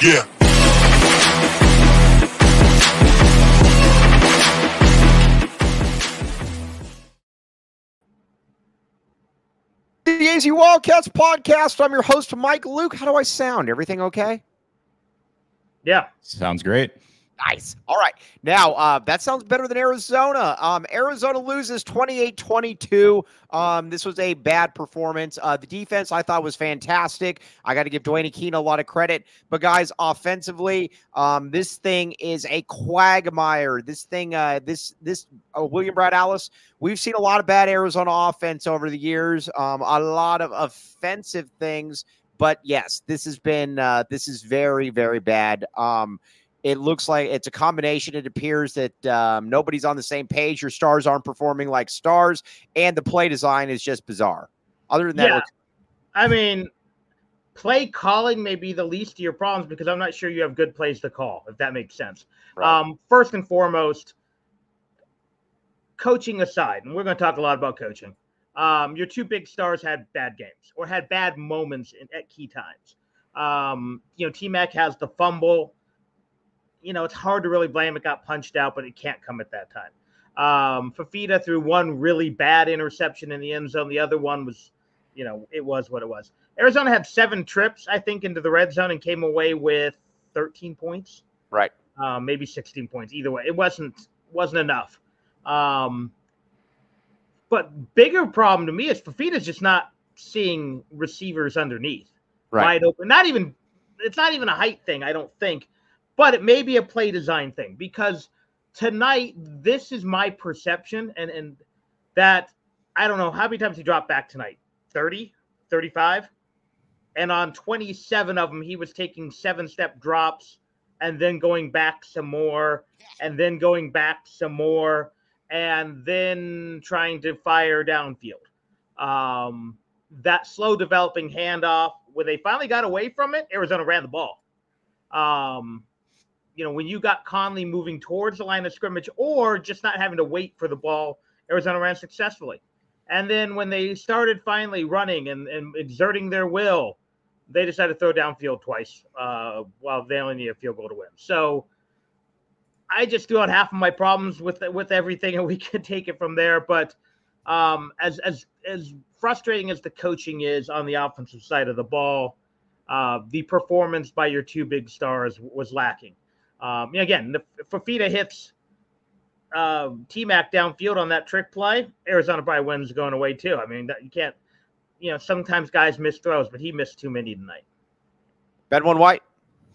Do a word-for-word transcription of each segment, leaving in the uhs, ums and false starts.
Yeah. The A Z Wildcats podcast. I'm your host, Mike Luke. How do I sound? Everything okay? Yeah. Sounds great. Nice. All right. Now, uh, that sounds better than Arizona. Um, Arizona loses twenty-eight twenty-two. Um, this was a bad performance. Uh, the defense I thought was fantastic. I got to give Dwayne Keene a lot of credit. But, guys, offensively, um, this thing is a quagmire. This thing, uh, this, this uh, William Brad Alice, we've seen a lot of bad Arizona offense over the years, um, a lot of offensive things. But, yes, this has been uh, – this is very, very bad. Um It looks like it's a combination. It appears that um, nobody's on the same page. Your stars aren't performing like stars, and the play design is just bizarre. Other than that, yeah. looks- I mean, play calling may be the least of your problems because I'm not sure you have good plays to call, if that makes sense. Right. Um, first and foremost, coaching aside, and we're going to talk a lot about coaching, um, your two big stars had bad games or had bad moments in, at key times. Um, you know, T-Mac has the fumble. You know, it's hard to really blame. It got punched out, but it can't come at that time. Um, Fifita threw one really bad interception in the end zone. The other one was, you know, it was what it was. Arizona had seven trips, I think, into the red zone and came away with thirteen points. right. Um, maybe sixteen points. Either way, it wasn't wasn't enough. Um, but bigger problem to me is Fifita's just not seeing receivers underneath. Right. Wide open. Not even, it's not even a height thing, I don't think. But it may be a play design thing because tonight, this is my perception, and, and that I don't know how many times he dropped back tonight, thirty, thirty-five, and on twenty-seven of them, he was taking seven-step drops and then going back some more and then going back some more and then trying to fire downfield. Um, that slow developing handoff, when they finally got away from it, Arizona ran the ball. Um, You know, when you got Conley moving towards the line of scrimmage or just not having to wait for the ball, Arizona ran successfully. And then when they started finally running and, and exerting their will, they decided to throw downfield twice uh, while they only need a field goal to win. So I just threw out half of my problems with with everything, and we can take it from there. But um, as as as frustrating as the coaching is on the offensive side of the ball, uh, the performance by your two big stars was lacking. Um, again, the Fifita hits uh, T-Mac downfield on that trick play, Arizona probably wins going away too. I mean, that, you can't, you know, sometimes guys miss throws, but he missed too many tonight. Ben One White.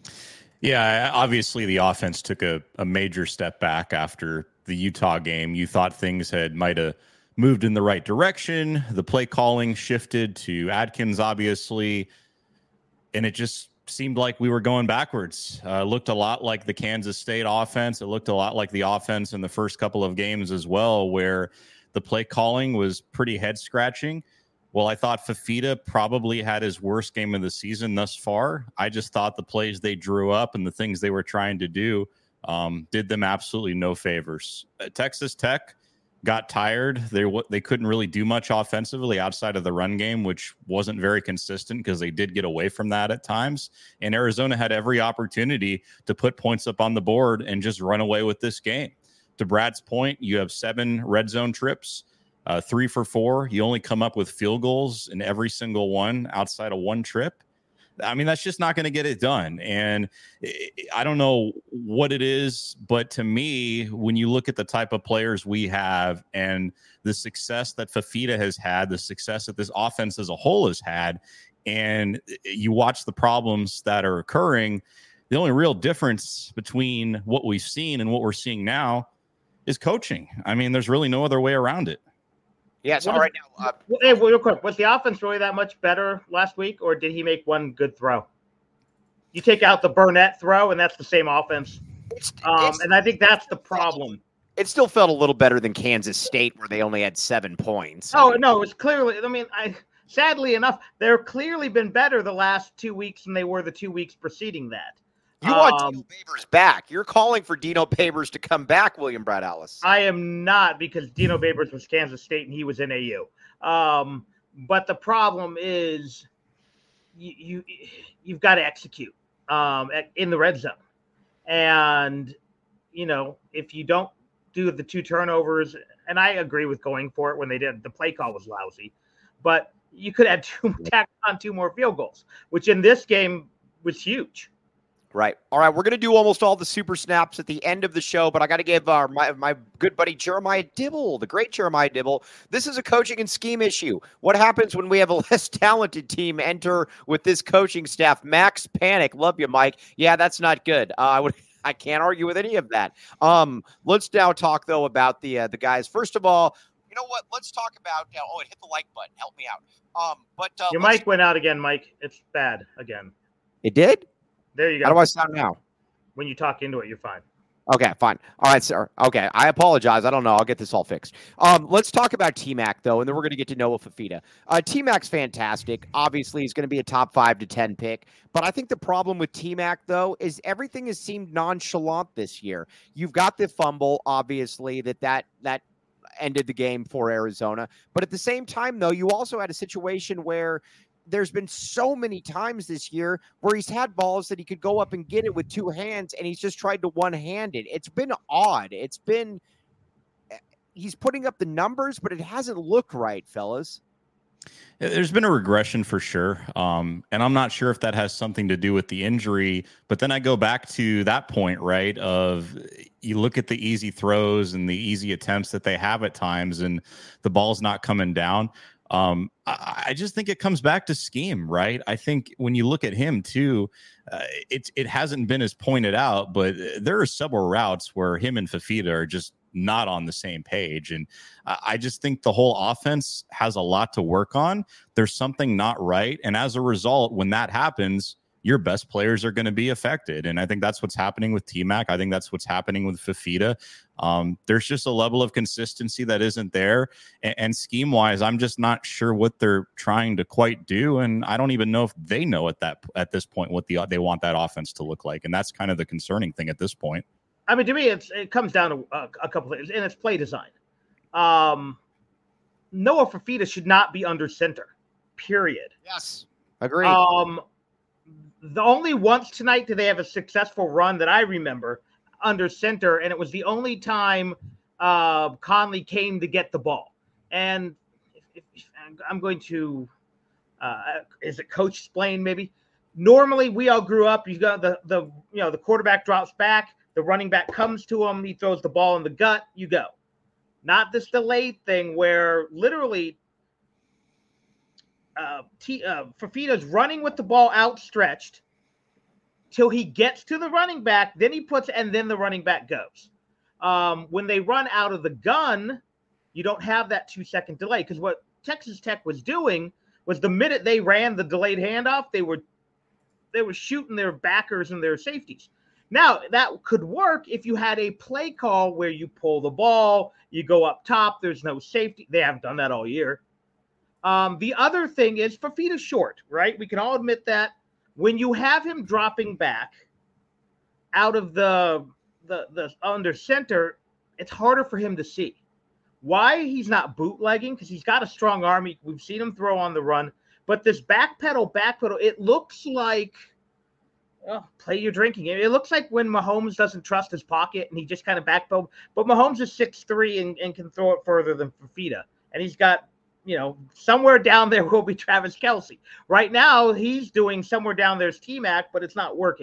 Yeah, obviously the offense took a, a major step back after the Utah game. You thought things had might have moved in the right direction. The play calling shifted to Adkins, obviously, and it just seemed like we were going backwards. Uh, looked a lot like the Kansas State offense. It looked a lot like the offense in the first couple of games as well, where the play calling was pretty head scratching. Well, I thought Fifita probably had his worst game of the season thus far. I just thought the plays they drew up and the things they were trying to do um, did them absolutely no favors. Uh, Texas Tech got tired. They they couldn't really do much offensively outside of the run game, which wasn't very consistent because they did get away from that at times. And Arizona had every opportunity to put points up on the board and just run away with this game. To Brad's point, you have seven red zone trips, uh, three for four. You only come up with field goals in every single one outside of one trip. I mean, that's just not going to get it done. And I don't know what it is, but to me, when you look at the type of players we have and the success that Fifita has had, the success that this offense as a whole has had, and you watch the problems that are occurring, the only real difference between what we've seen and what we're seeing now is coaching. I mean, there's really no other way around it. Yes. What all is, right. Now, uh, hey, real quick, was the offense really that much better last week, or did he make one good throw? You take out the Burnett throw, and that's the same offense. it's, Um, it's, and I think that's the problem. it still felt a little better than Kansas State, where they only had seven points. Oh, no, it's clearly – I mean, I sadly enough, they're clearly been better the last two weeks than they were the two weeks preceding that. You want Um, Dino Babers back. You're calling for Dino Babers to come back, William Brad Ellis. I am not, because Dino Babers was Kansas State and he was in A U. Um, but the problem is you, you, you've got to execute. um, at, in the red zone. And, you know, if you don't do the two turnovers, and I agree with going for it when they did, the play call was lousy, but you could add two, tack on two more field goals, which in this game was huge. Right. All right. We're going to do almost all the super snaps at the end of the show, but I got to give our, my, my good buddy Jeremiah Dibble, the great Jeremiah Dibble. This is a coaching and scheme issue. What happens when we have a less talented team enter with this coaching staff? Max Panic. Love you, Mike. Yeah, that's not good. Uh, I would. I can't argue with any of that. Um, let's now talk, though, about the uh, the guys. First of all, you know what? Let's talk about uh, – oh, it hit the like button. Help me out. Um, but uh, Your mic went out again, Mike. It's bad again. It did? There you go. How do I sound now? When you talk into it, you're fine. Okay, fine. All right, sir. Okay, I apologize. I don't know. I'll get this all fixed. Um, let's talk about T-Mac, though, and then we're going to get to Noah Fifita. Uh, T-Mac's fantastic. Obviously, he's going to be a top five to ten pick. But I think the problem with T-Mac, though, is everything has seemed nonchalant this year. You've got the fumble, obviously, that that that ended the game for Arizona. But at the same time, though, you also had a situation where there's been so many times this year where he's had balls that he could go up and get it with two hands, and he's just tried to one-hand it. It's been odd. It's been – he's putting up the numbers, but it hasn't looked right, fellas. There's been a regression for sure. Um, and I'm not sure if that has something to do with the injury, but then I go back to that point, right, of you look at the easy throws and the easy attempts that they have at times, and the ball's not coming down. Um, I, I just think it comes back to scheme, right? I think when you look at him too, uh, it's it hasn't been as pointed out, but there are several routes where him and Fifita are just not on the same page. And uh, I just think the whole offense has a lot to work on. There's something not right. And as a result, when that happens, your best players are going to be affected. And I think that's what's happening with T-Mac. I think that's what's happening with Fifita. Um, there's just a level of consistency that isn't there. And, and scheme-wise, I'm just not sure what they're trying to quite do. And I don't even know if they know at that at this point what the they want that offense to look like. And that's kind of the concerning thing at this point. I mean, to me, it's it comes down to a, a couple of things, and it's play design. Um, Noah Fifita should not be under center, period. Yes, agreed. Um, the only once tonight did they have a successful run that I remember under center, and it was the only time uh, Conley came to get the ball. And if, if, I'm going to, uh, is it Coach Splain maybe? Normally, we all grew up. You got the the you know the quarterback drops back. The running back comes to him. He throws the ball in the gut. You go. Not this delayed thing where literally uh, T, uh, Fifita's running with the ball outstretched till he gets to the running back. Then he puts, and then the running back goes. Um, when they run out of the gun, you don't have that two-second delay, because what Texas Tech was doing was the minute they ran the delayed handoff, they were they were shooting their backers and their safeties. Now, that could work if you had a play call where you pull the ball, you go up top, there's no safety. They haven't done that all year. Um, the other thing is Fifita's short, right? We can all admit that. When you have him dropping back out of the, the, the under center, it's harder for him to see. Why he's not bootlegging? Because he's got a strong arm. We've seen him throw on the run. But this backpedal, backpedal, it looks like – oh, play your drinking game. It looks like when Mahomes doesn't trust his pocket and he just kind of backpedal. But Mahomes is six three and, and can throw it further than Fifita. And he's got, you know, somewhere down there will be Travis Kelce. Right now, he's doing somewhere down there's T-Mac, but it's not working.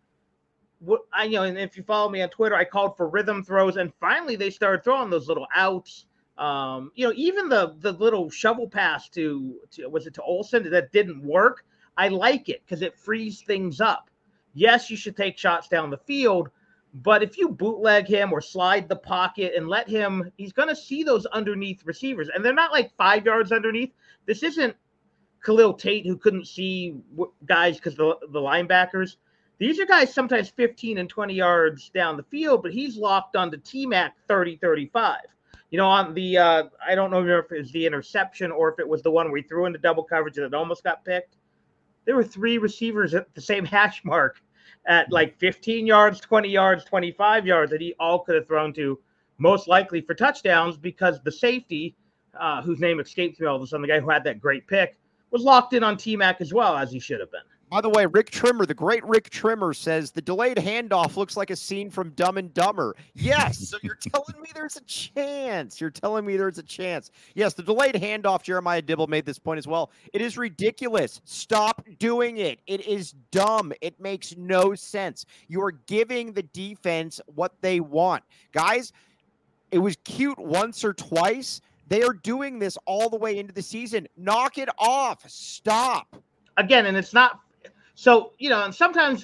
What I you know, and if you follow me on Twitter, I called for rhythm throws, and finally they started throwing those little outs. Um, you know, even the the little shovel pass to, to was it to Olsen that didn't work. I like it because it frees things up. Yes, you should take shots down the field, but if you bootleg him or slide the pocket and let him, he's going to see those underneath receivers. And they're not like five yards underneath. This isn't Khalil Tate who couldn't see guys because the, the linebackers. These are guys sometimes fifteen and twenty yards down the field, but he's locked onto T-Mac thirty, thirty-five. You know, on the, uh, I don't know if it was the interception or if it was the one where he threw into double coverage and it almost got picked. There were three receivers at the same hash mark at like fifteen yards, twenty yards, twenty-five yards that he all could have thrown to, most likely for touchdowns, because the safety, uh, whose name escapes me all of a sudden, the guy who had that great pick, was locked in on T-Mac as well, as he should have been. By the way, Rick Trimmer, the great Rick Trimmer, says the delayed handoff looks like a scene from Dumb and Dumber. Yes, so you're telling me there's a chance. You're telling me there's a chance. Yes, the delayed handoff, Jeremiah Dibble made this point as well. It is ridiculous. Stop doing it. It is dumb. It makes no sense. You are giving the defense what they want. Guys, it was cute once or twice. They are doing this all the way into the season. Knock it off. Stop. Again, and it's not... So, you know, and sometimes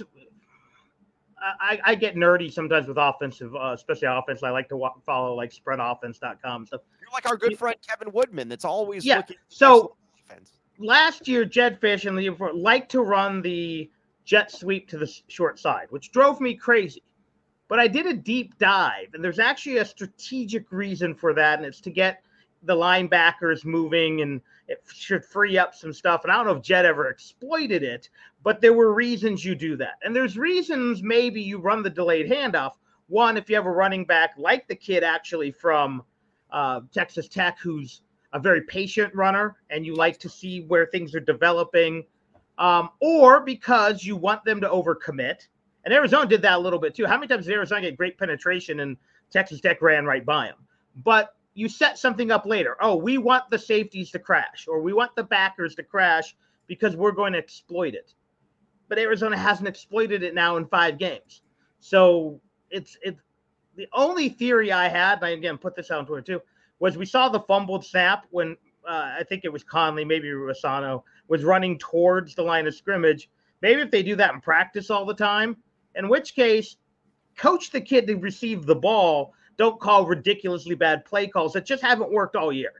I, I get nerdy sometimes with offensive, uh, especially offense. I like to walk, follow like spread offense dot com stuff. You're like our good friend Kevin Woodman that's always yeah. looking So defense. Last year, Jed Fish and the year before liked to run the jet sweep to the short side, which drove me crazy. But I did a deep dive, and there's actually a strategic reason for that, and it's to get the linebackers moving, and it should free up some stuff. And I don't know if Jed ever exploited it, but there were reasons you do that. And there's reasons maybe you run the delayed handoff. One, if you have a running back like the kid actually from uh, Texas Tech, who's a very patient runner, and you like to see where things are developing, um, or because you want them to overcommit. And Arizona did that a little bit too. How many times did Arizona get great penetration and Texas Tech ran right by him? But you set something up later. Oh, we want the safeties to crash, or we want the backers to crash because we're going to exploit it. But Arizona hasn't exploited it now in five games. So it's it's the only theory I had, and I again put this out on Twitter too, was we saw the fumbled snap when uh, I think it was Conley, maybe Rossano, was running towards the line of scrimmage. Maybe if they do that in practice all the time, in which case, coach the kid to receive the ball. Don't call ridiculously bad play calls that just haven't worked all year.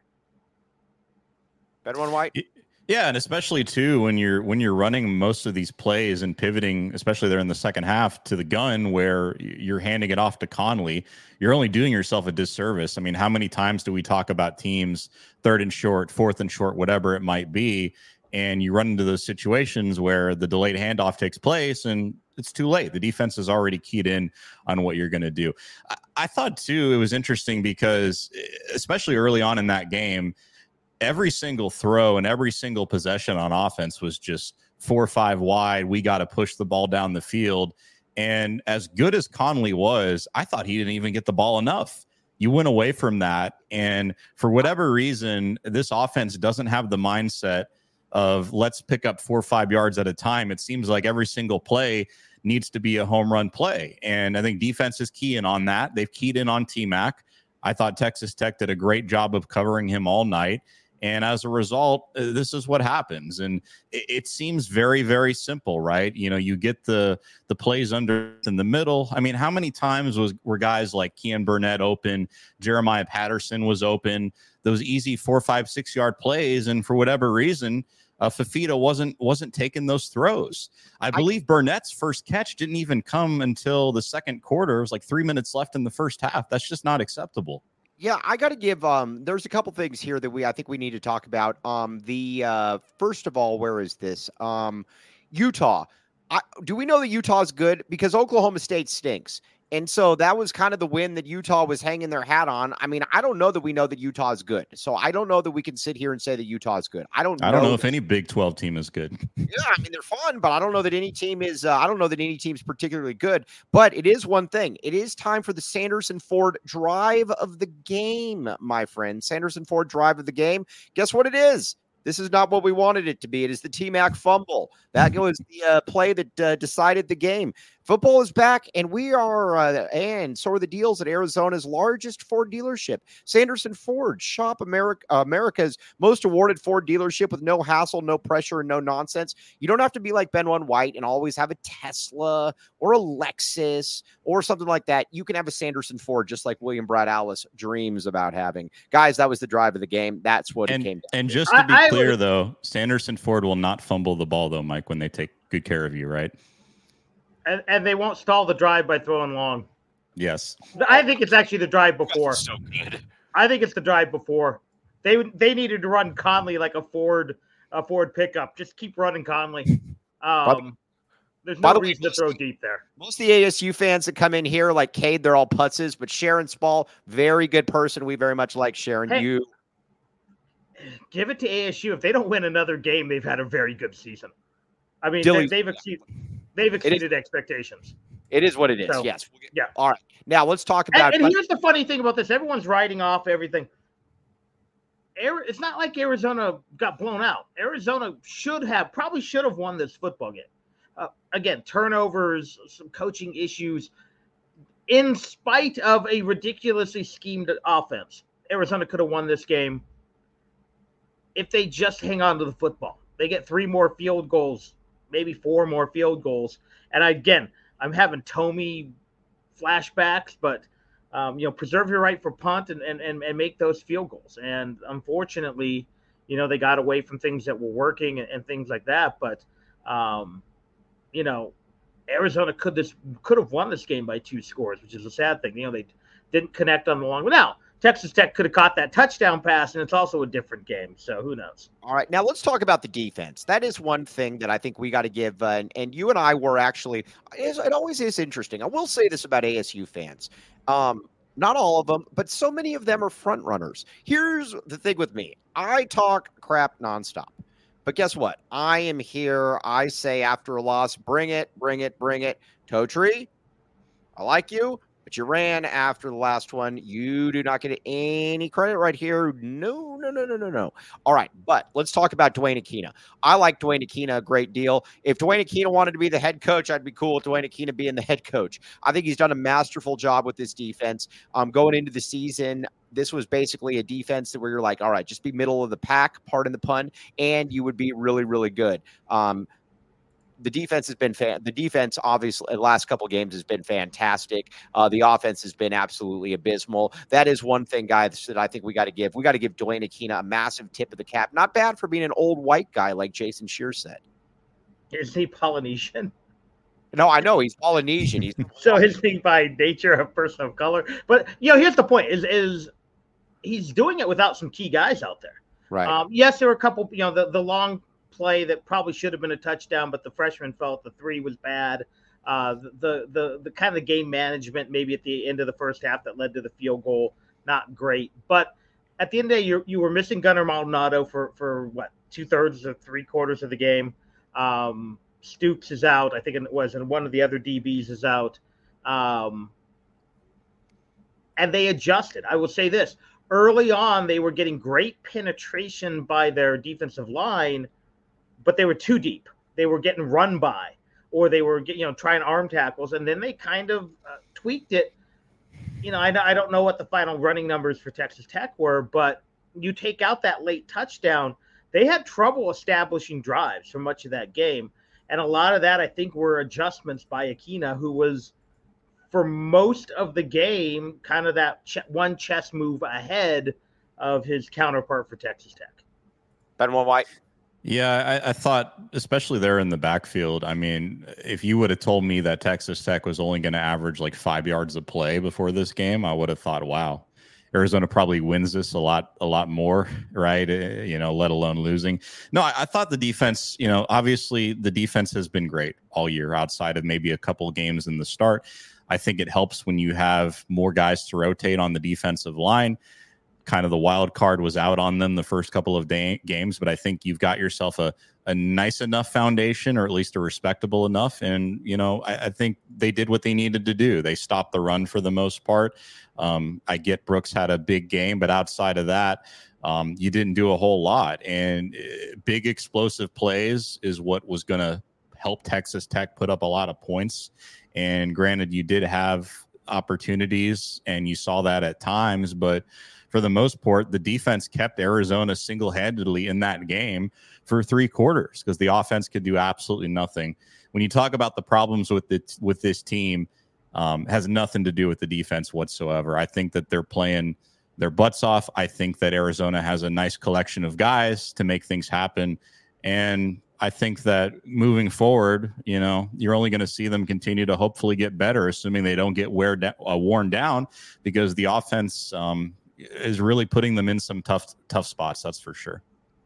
Ben One White. Yeah, and especially too when you're when you're running most of these plays and pivoting, especially there in the second half, to the gun where you're handing it off to Conley, you're only doing yourself a disservice. I mean, how many times do we talk about teams third and short, fourth and short, whatever it might be, and you run into those situations where the delayed handoff takes place and it's too late. The defense is already keyed in on what you're going to do. I, I thought, too, it was interesting because, especially early on in that game, every single throw and every single possession on offense was just four or five wide. We got to push the ball down the field. And as good as Conley was, I thought he didn't even get the ball enough. You went away from that. And for whatever reason, this offense doesn't have the mindset of let's pick up four or five yards at a time. It seems like every single play needs to be a home run play. And I think defense is keying on that. They've keyed in on T-Mac. I thought Texas Tech did a great job of covering him all night. And as a result, uh, this is what happens. And it, it seems very, very simple, right? You know, you get the the plays under in the middle. I mean, how many times was were guys like Kean Burnett open, Jeremiah Patterson was open, those easy four, five, six yard plays, and for whatever reason, uh, Fifita wasn't wasn't taking those throws. I believe I, Burnett's first catch didn't even come until the second quarter. It was like three minutes left in the first half. That's just not acceptable. Yeah, I got to give, um, there's a couple things here that we, I think we need to talk about. Um, the, uh, first of all, where is this? Um, Utah. I, do we know that Utah is good? Because Oklahoma State stinks. And so that was kind of the win that Utah was hanging their hat on. I mean, I don't know that we know that Utah is good. So I don't know that we can sit here and say that Utah is good. I don't know. I don't know if any Big twelve team is good. Yeah, I mean, they're fun, but I don't know that any team is, uh, I don't know that any team's particularly good. But it is one thing. It is time for the Sanderson Ford drive of the game, my friend. Sanderson Ford drive of the game. Guess what it is? This is not what we wanted it to be. It is the T-Mac fumble. That was the uh, play that uh, decided the game. Football is back, and we are, uh, and so are the deals at Arizona's largest Ford dealership. Sanderson Ford, shop America, America's most awarded Ford dealership with no hassle, no pressure, and no nonsense. You don't have to be like Ben One White and always have a Tesla or a Lexus or something like that. You can have a Sanderson Ford just like William Brad Alice dreams about having. Guys, that was the drive of the game. That's what and, it came down And to. just to be I, clear, I, though, Sanderson Ford will not fumble the ball, though, Mike, when they take good care of you, right? And, and they won't stall the drive by throwing long. Yes. I think it's actually the drive before. That's so good. I think it's the drive before. They they needed to run Conley like a Ford a Ford pickup. Just keep running Conley. Um, there's no the reason way, to throw deep there. Most of the A S U fans that come in here, like Cade, they're all putzes. But Sharon Spall, very good person. We very much like Sharon. Hey, you. give it to A S U. If they don't win another game, they've had a very good season. I mean, Dilly, they, they've exceeded they've exceeded expectations. It is what it is. So, yes. Yeah. All right. Now let's talk about. And, and here's the funny thing about this: everyone's writing off everything. It's not like Arizona got blown out. Arizona should have, probably should have won this football game. Uh, again, turnovers, some coaching issues. In spite of a ridiculously schemed offense, Arizona could have won this game if they just hang on to the football. They get three more field goals, maybe four more field goals. And again, I'm having Tomey flashbacks, but Um, you know, preserve your right for punt and, and, and, and make those field goals. And unfortunately, you know, they got away from things that were working and, and things like that. But, um, you know, Arizona could this could have won this game by two scores, which is a sad thing. You know, they didn't connect on the long. Now, Texas Tech could have caught that touchdown pass, and it's also a different game. So who knows? All right. Now let's talk about the defense. That is one thing that I think we got to give. Uh, and, and you and I were actually, it always is interesting. I will say this about A S U fans. Um, not all of them, but so many of them are front runners. Here's the thing with me. I talk crap nonstop, but guess what? I am here. I say after a loss, bring it, bring it, bring it. Totri, I like you, but you ran after the last one. You do not get any credit right here. No, no, no, no, no, no. All right, but let's talk about Dwayne Aquina. I like Dwayne Aquina a great deal. If Dwayne Aquina wanted to be the head coach, I'd be cool with Dwayne Aquina being the head coach. I think he's done a masterful job with this defense. Um, going into the season, this was basically a defense where you're like, all right, just be middle of the pack, pardon the pun, and you would be really, really good. Um, The defense has been fan. The defense, obviously, the last couple of games has been fantastic. Uh, the offense has been absolutely abysmal. That is one thing, guys, that I think we got to give. We got to give Dwayne Aquina a massive tip of the cap. Not bad for being an old white guy, like Jason Shear said. Is he Polynesian? No, I know he's Polynesian. He's so is he by nature a person of color? But you know, here's the point: is is he's doing it without some key guys out there. Right. Um, yes, there were a couple. You know, the the long play that probably should have been a touchdown, but the freshman felt the three was bad. Uh, the, the, the kind of game management, maybe at the end of the first half that led to the field goal, not great. But at the end of the day, you you were missing Gunnar Maldonado for, for what, two thirds or three quarters of the game. Um, Stoops is out, I think it was, and one of the other D Bs is out. Um, and they adjusted. I will say this, early on, they were getting great penetration by their defensive line, but they were too deep. They were getting run by, or they were you know trying arm tackles, and then they kind of uh, tweaked it. You know, I, I don't know what the final running numbers for Texas Tech were, but you take out that late touchdown, they had trouble establishing drives for much of that game, and a lot of that I think were adjustments by Aquina, who was for most of the game kind of that ch- one chess move ahead of his counterpart for Texas Tech. Benoit White. Yeah, I, I thought, especially there in the backfield, I mean, if you would have told me that Texas Tech was only going to average like five yards a play before this game, I would have thought, wow, Arizona probably wins this a lot, a lot more, right? Uh, you know, let alone losing. No, I, I thought the defense, you know, obviously the defense has been great all year outside of maybe a couple of games in the start. I think it helps when you have more guys to rotate on the defensive line. Kind of the wild card was out on them the first couple of day- games, but I think you've got yourself a, a nice enough foundation, or at least a respectable enough. And, you know, I, I think they did what they needed to do. They stopped the run for the most part. Um, I get Brooks had a big game, but outside of that, um, you didn't do a whole lot. And uh, big explosive plays is what was going to help Texas Tech put up a lot of points. And granted, you did have opportunities and you saw that at times, but for the most part, the defense kept Arizona single-handedly in that game for three quarters because the offense could do absolutely nothing. When you talk about the problems with it, with this team, um, has nothing to do with the defense whatsoever. I think that they're playing their butts off. I think that Arizona has a nice collection of guys to make things happen. And I think that moving forward, you know, you're only going to see them continue to hopefully get better, assuming they don't get wear da- uh, worn down, because the offense um, is really putting them in some tough, tough spots. That's for sure.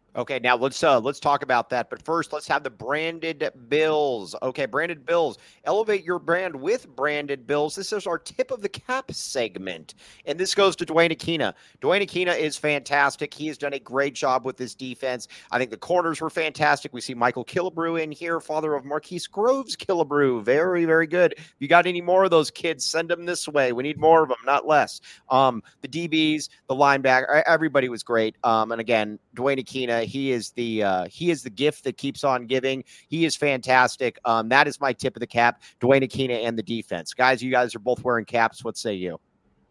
Okay, now let's uh let's talk about that. But first, let's have the branded bills. Okay, branded bills. Elevate your brand with branded bills. This is our tip of the cap segment, and this goes to Dwayne Aquina. Dwayne Aquina is fantastic. He has done a great job with this defense. I think the corners were fantastic. We see Michael Killebrew in here, father of Marquise Groves Killebrew. Very, very good. If you got any more of those kids, send them this way. We need more of them, not less. Um, the D Bs, the linebacker, everybody was great. Um, and again, Dwayne Aquina. He is the uh, he is the gift that keeps on giving. He is fantastic. Um, that is my tip of the cap, Dwayne Aquina and the defense. Guys, you guys are both wearing caps. What say you?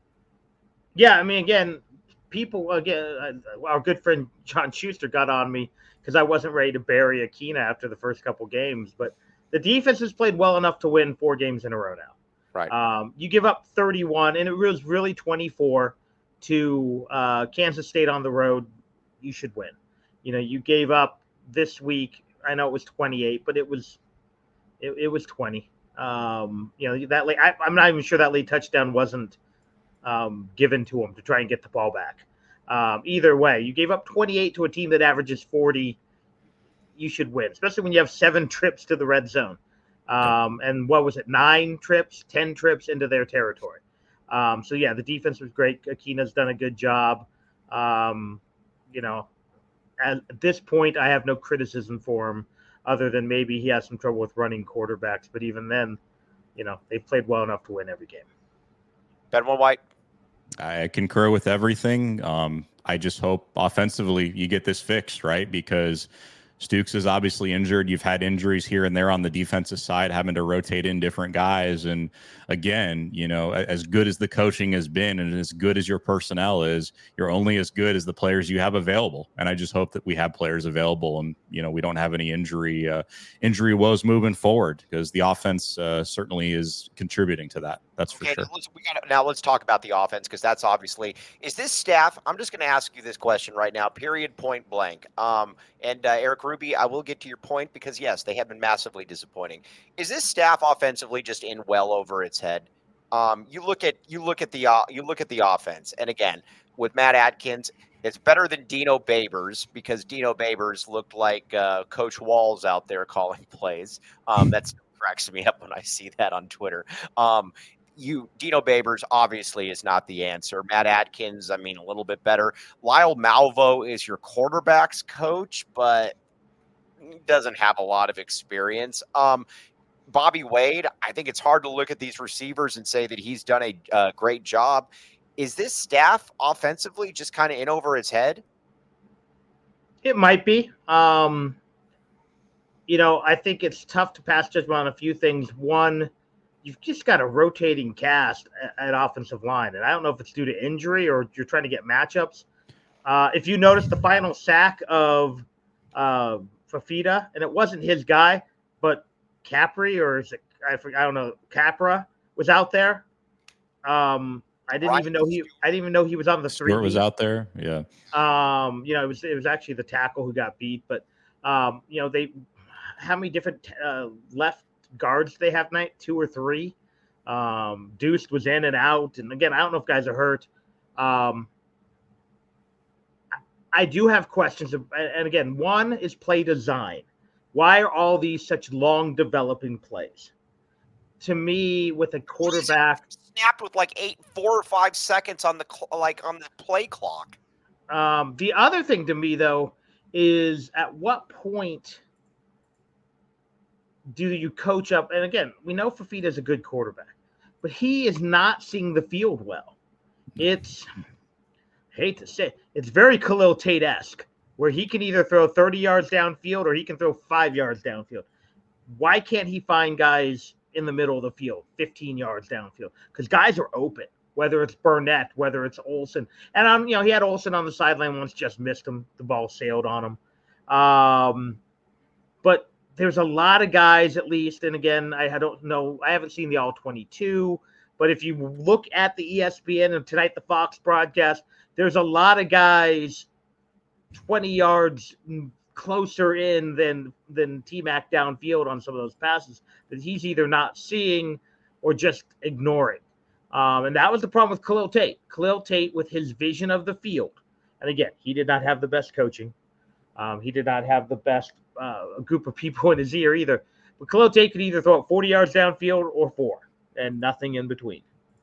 Yeah, I mean, again, people, again, our good friend John Schuster got on me because I wasn't ready to bury Aquina after the first couple games. But the defense has played well enough to win four games in a row now. Right. Um, you give up thirty-one, and it was really twenty-four to uh, Kansas State on the road. You should win. You know, you gave up this week. I know it was twenty-eight, but it was it, it was twenty. Um, you know, that late, I, I'm not even sure that late touchdown wasn't um, given to him to try and get the ball back. Um, either way, you gave up twenty-eight to a team that averages forty. You should win, especially when you have seven trips to the red zone. Um, and what was it? Nine trips, ten trips into their territory. Um, so yeah, the defense was great. Aquina's done a good job. Um, you know, at this point, I have no criticism for him other than maybe he has some trouble with running quarterbacks. But even then, you know, they've played well enough to win every game. Benjamin White. I concur with everything. Um, I just hope offensively you get this fixed, right? Because Stukes is obviously injured. You've had injuries here and there on the defensive side, having to rotate in different guys. And again, you know, as good as the coaching has been and as good as your personnel is, you're only as good as the players you have available. And I just hope that we have players available and, you know, we don't have any injury, uh, injury woes moving forward, because the offense uh, certainly is contributing to that. That's okay, for sure. Now let's, we gotta, now let's talk about the offense, because that's obviously, is this staff, I'm just going to ask you this question right now, period, point blank. Um, and uh, Eric Ruby, I will get to your point, because yes, they have been massively disappointing. Is this staff offensively just in well over its head? Um, you look at you look at the uh, you look at the offense, and again with Matt Atkins, it's better than Dino Babers, because Dino Babers looked like uh, Coach Walls out there calling plays. Um, that cracks me up when I see that on Twitter. Um, You Dino Babers obviously is not the answer. Matt Atkins, I mean, a little bit better. Lyle Malvo is your quarterback's coach, but doesn't have a lot of experience. Um, Bobby Wade, I think it's hard to look at these receivers and say that he's done a uh, great job. Is this staff offensively just kind of in over its head? It might be. Um, you know, I think it's tough to pass judgment on a few things. One, you've just got a rotating cast at, at offensive line. And I don't know if it's due to injury or you're trying to get matchups. Uh, if you notice the final sack of uh, Fafita, and it wasn't his guy, but Capri, or is it, I, I don't know, Capra was out there. Um, I didn't right. even know he. I didn't even know he was on the three. Stewart was out there. Yeah. Um, you know, it was it was actually the tackle who got beat, but um, you know, they how many different uh, left guards they have tonight? Two or three. Um, Deuce was in and out, and again, I don't know if guys are hurt. Um, I do have questions, of, and again, one is play design. Why are all these such long developing plays? To me, with a quarterback snapped with like eight, four or five seconds on the like on the play clock. Um, the other thing to me, though, is at what point do you coach up? And again, we know Fafita is a good quarterback, but he is not seeing the field well. It's hate to say, it's very Khalil Tate-esque, where he can either throw thirty yards downfield or he can throw five yards downfield. Why can't he find guys in the middle of the field, fifteen yards downfield? Because guys are open, whether it's Burnett, whether it's Olsen. And, um, you know, he had Olsen on the sideline once, just missed him. The ball sailed on him. Um, but there's a lot of guys, at least, and again, I don't know, I haven't seen the all twenty-two, but if you look at the E S P N and tonight the Fox broadcast, there's a lot of guys twenty yards closer in than than T-Mac downfield on some of those passes that he's either not seeing or just ignoring. Um, and that was the problem with Khalil Tate. Khalil Tate, with his vision of the field, and again, he did not have the best coaching. Um, he did not have the best uh, group of people in his ear either. But Khalil Tate could either throw it forty yards downfield or four, and nothing in between.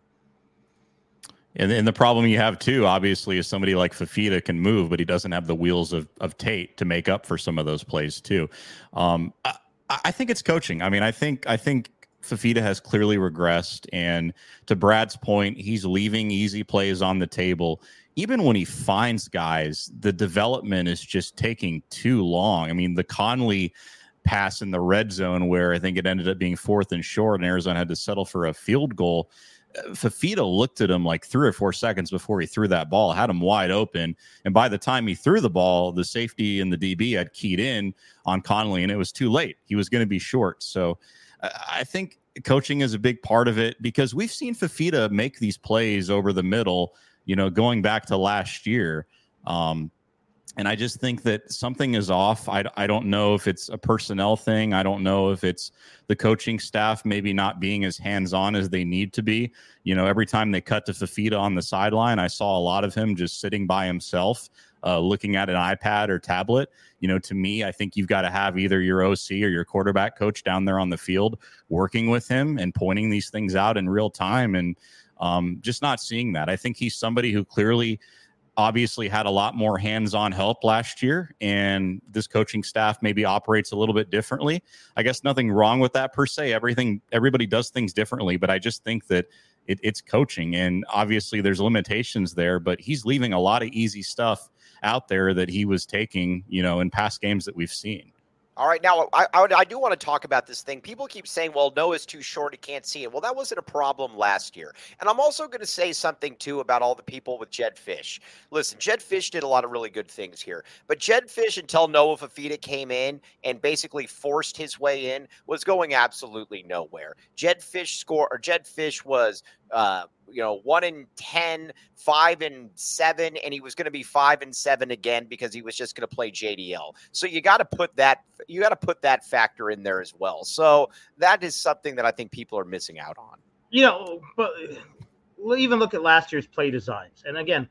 And, and the problem you have, too, obviously, is somebody like Fifita can move, but he doesn't have the wheels of, of Tate to make up for some of those plays, too. Um, I, I think it's coaching. I mean, I think I think Fifita has clearly regressed. And to Brad's point, he's leaving easy plays on the table. Even when he finds guys, the development is just taking too long. I mean, the Conley pass in the red zone where I think it ended up being fourth and short and Arizona had to settle for a field goal. Fifita looked at him like three or four seconds before he threw that ball, had him wide open. And by the time he threw the ball, the safety and the D B had keyed in on Conley, and it was too late. He was going to be short. So uh, I think coaching is a big part of it because we've seen Fifita make these plays over the middle, you know, going back to last year. Um, And I just think that something is off. I, I don't know if it's a personnel thing. I don't know if it's the coaching staff maybe not being as hands-on as they need to be. You know, every time they cut to Fifita on the sideline, I saw a lot of him just sitting by himself, uh, looking at an iPad or tablet. You know, to me, I think you've got to have either your O C or your quarterback coach down there on the field working with him and pointing these things out in real time, and um, just not seeing that. I think he's somebody who clearly obviously had a lot more hands-on help last year, and this coaching staff maybe operates a little bit differently. I guess nothing wrong with that per se. Everything, everybody does things differently, but I just think that it, it's coaching, and obviously there's limitations there, but he's leaving a lot of easy stuff out there that he was taking, you know, in past games that we've seen. All right, now I, I, I do want to talk about this thing. People keep saying, well, Noah's too short, he can't see it. Well, that wasn't a problem last year. And I'm also going to say something, too, about all the people with Jedd Fisch. Listen, Jedd Fisch did a lot of really good things here. But Jedd Fisch, until Noah Fifita came in and basically forced his way in, was going absolutely nowhere. Jedd Fisch score or Jedd Fisch was uh, you know, one in ten, five and seven, and he was going to be five and seven again because he was just going to play J D L. So you got to put that, you got to put that factor in there as well. So that is something that I think people are missing out on. You know, but we'll even look at last year's play designs. And again,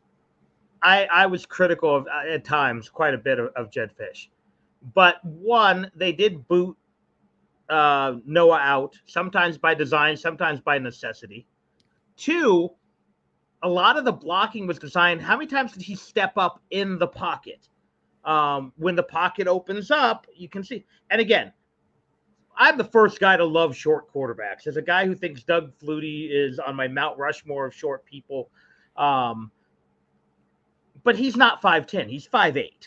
I I was critical of at times quite a bit of, of Jedd Fisch. But one, they did boot uh, Noah out, sometimes by design, sometimes by necessity. Two, a lot of the blocking was designed. How many times did he step up in the pocket? Um, when the pocket opens up, you can see. And again, I'm the first guy to love short quarterbacks. As a guy who thinks Doug Flutie is on my Mount Rushmore of short people. Um, but he's not five ten. He's five eight.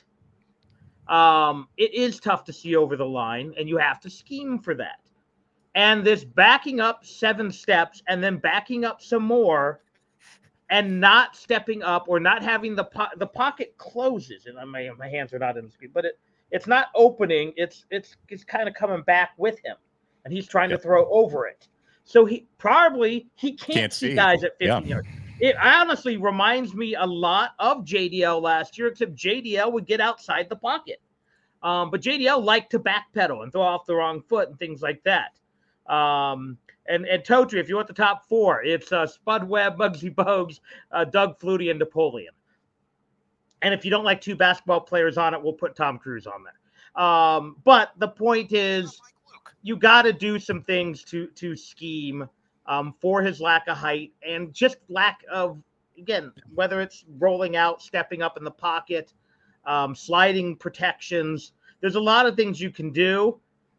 Um, it is tough to see over the line, and you have to scheme for that. And this backing up seven steps and then backing up some more and not stepping up or not having the po- the pocket closes. And my my hands are not in the screen, but it it's not opening. It's it's it's kind of coming back with him, and he's trying yep. to throw over it. So he probably he can't, can't see, see guys at fifty yeah. yards. It honestly reminds me a lot of J D L last year, except J D L would get outside the pocket. Um, but J D L liked to backpedal and throw off the wrong foot and things like that. Um, and, and Totri, if you want the top four, it's uh, Spud Webb, Muggsy Bogues, uh, Doug Flutie, and Napoleon. And if you don't like two basketball players on it, we'll put Tom Cruise on there. Um, but the point is, you got to do some things to to scheme um, for his lack of height and just lack of, again, whether it's rolling out, stepping up in the pocket, um, sliding protections. There's a lot of things you can do,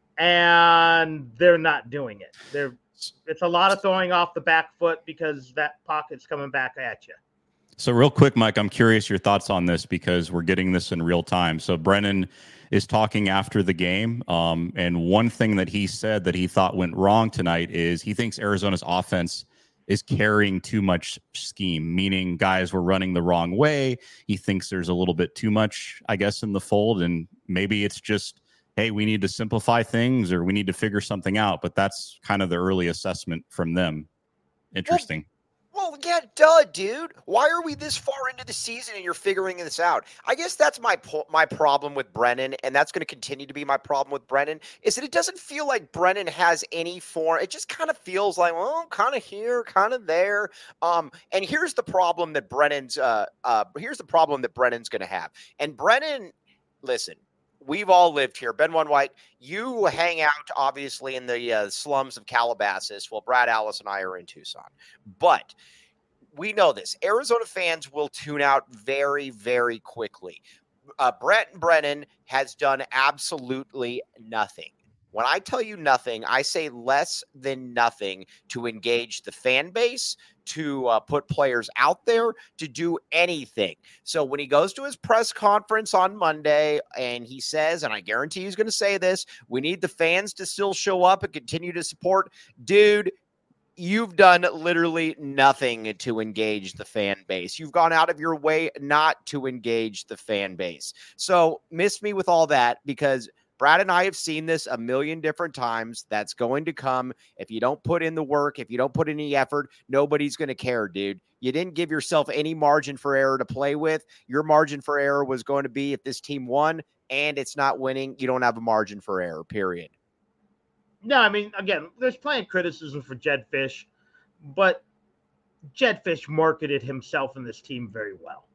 and they're not doing it. They're it's a lot of throwing off the back foot because that pocket's coming back at you. So real quick, Mike, I'm curious your thoughts on this because we're getting this in real time. So Brennan is talking after the game. Um, and one thing that he said that he thought went wrong tonight is he thinks Arizona's offense is carrying too much scheme, meaning guys were running the wrong way. He thinks there's a little bit too much, I guess, in the fold. And maybe it's just, hey, we need to simplify things or we need to figure something out. But that's kind of the early assessment from them. Interesting. Well, well, yeah, duh, dude. Why are we this far into the season and you're figuring this out? I guess that's my po- my problem with Brennan, and that's going to continue to be my problem with Brennan, is that it doesn't feel like Brennan has any form. It just kind of feels like, well, kind of here, kind of there. Um, and here's the problem that Brennan's uh, uh, here's the problem that Brennan's going to have. And Brennan, listen, we've all lived here. Ben One White, you hang out obviously in the uh, slums of Calabasas. Well, Brad Alice and I are in Tucson. But we know this. Arizona fans will tune out very, very quickly. Uh, Brent Brennan has done absolutely nothing. When I tell you nothing, I say less than nothing to engage the fan base, to uh, put players out there, to do anything. So when he goes to his press conference on Monday and he says, and I guarantee he's going to say this, we need the fans to still show up and continue to support. Dude, you've done literally nothing to engage the fan base. You've gone out of your way not to engage the fan base. So miss me with all that, because Brad and I have seen this a million different times. That's going to come. If you don't put in the work, if you don't put in any effort, nobody's going to care, dude. You didn't give yourself any margin for error to play with. Your margin for error was going to be if this team won, and it's not winning, you don't have a margin for error, period. No, I mean, again, there's plenty of criticism for Jedd Fisch, but Jedd Fisch marketed himself and this team very well.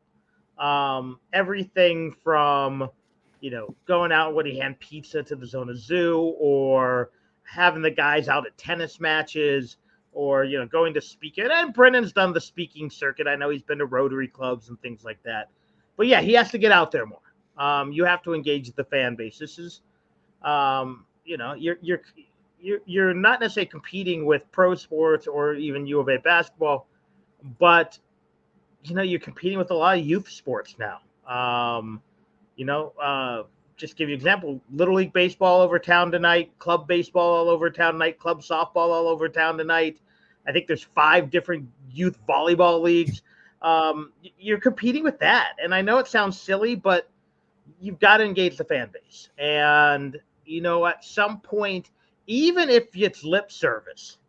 Um, everything from, you know, going out when he hand pizza to the Zona Zoo, or having the guys out at tennis matches, or, you know, going to speak. And Brennan's done the speaking circuit. I know he's been to Rotary clubs and things like that. But, yeah, he has to get out there more. Um, you have to engage the fan base. This is, um, you know, you're you're – You're, you're not necessarily competing with pro sports or even U of A basketball, but, you know, you're competing with a lot of youth sports now. Um, you know, uh, just give you an example, Little League baseball over town tonight, club baseball all over town tonight, club softball all over town tonight. I think there's five different youth volleyball leagues. Um, you're competing with that. And I know it sounds silly, but you've got to engage the fan base. And, you know, at some point, even if it's lip service,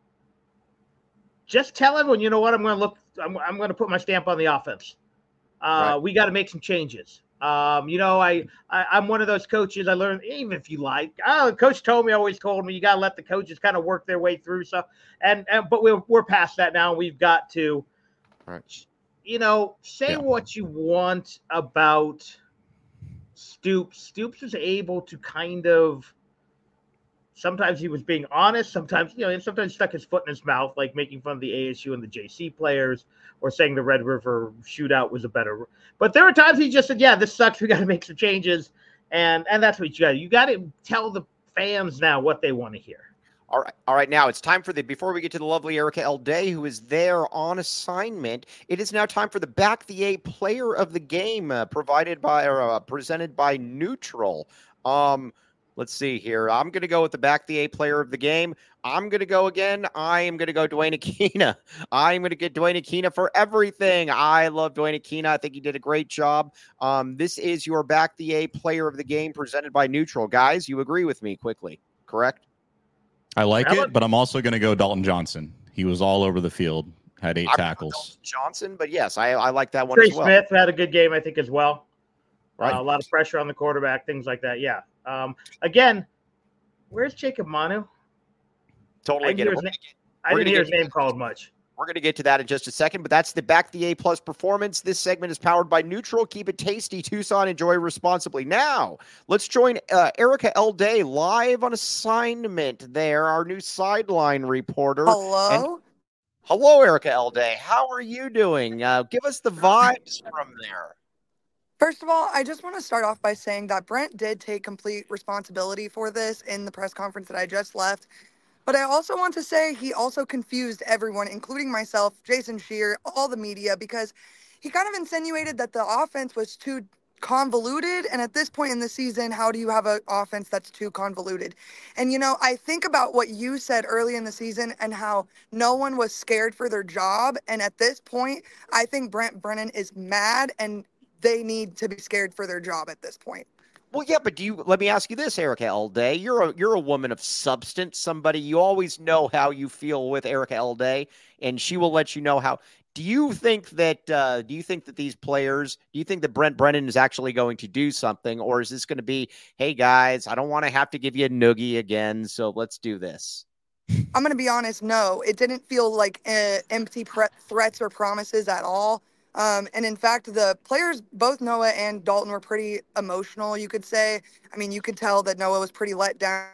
just tell everyone, you know what, I'm going to look, I'm, I'm going to put my stamp on the offense. Uh, right. We got to make some changes. Um, you know, I, I, I'm one of those coaches. I learned, even if you like, oh, the coach told me, always told me, you got to let the coaches kind of work their way through stuff. And, and but we're, we're past that now. We've got to, right. you know, say yeah. what you want about Stoops. Stoops was able to kind of, sometimes he was being honest. Sometimes, you know, and sometimes stuck his foot in his mouth, like making fun of the A S U and the J C players, or saying the Red River shootout was a better. But there were times he just said, "Yeah, this sucks. We got to make some changes," and and that's what you got. You got to tell the fans now what they want to hear. All right, all right. Now it's time for the. Before we get to the lovely Erica L. Day, who is there on assignment, it is now time for the Back the A Player of the Game, uh, provided by or uh, presented by Neutral. Um. Let's see here. I'm going to go with the Back the A Player of the Game. I'm going to go again. I am going to go Dwayne Aquina. I'm going to get Dwayne Aquina for everything. I love Dwayne Aquina. I think he did a great job. Um, this is your Back the A Player of the Game presented by Neutral. Guys, you agree with me quickly, correct? I like it, but I'm also going to go Dalton Johnson. He was all over the field, had eight I'm tackles. Johnson, but yes, I, I like that one Trey as well. Smith had a good game, I think, as well. Right. Uh, a lot of pressure on the quarterback, things like that. Yeah. Um, again, where's Jacob Manu? Totally get it. Na- I didn't hear his name called much. We're going to get to that in just a second, but that's the Back the A Plus performance. This segment is powered by Neutral. Keep it tasty, Tucson. Enjoy responsibly. Now, let's join uh, Erica L. Day live on assignment there, our new sideline reporter. Hello? And- Hello, Erica L. Day. How are you doing? Uh, give us the vibes from there. First of all, I just want to start off by saying that Brent did take complete responsibility for this in the press conference that I just left. But I also want to say he also confused everyone, including myself, Jason Scheer, all the media, because he kind of insinuated that the offense was too convoluted. And at this point in the season, how do you have an offense that's too convoluted? And, you know, I think about what you said early in the season and how no one was scared for their job. And at this point, I think Brent Brennan is mad and they need to be scared for their job at this point. Well, yeah, but do you? Let me ask you this, Erica L. Day. You're a you're a woman of substance. Somebody you always know how you feel with Erica L. Day, and she will let you know how. Do you think that? Uh, do you think that these players? Do you think that Brent Brennan is actually going to do something, or is this going to be, hey guys, I don't want to have to give you a noogie again, so let's do this? I'm going to be honest. No, it didn't feel like uh, empty pre- threats or promises at all. Um, and in fact, the players, both Noah and Dalton, were pretty emotional, you could say. I mean, you could tell that Noah was pretty let down,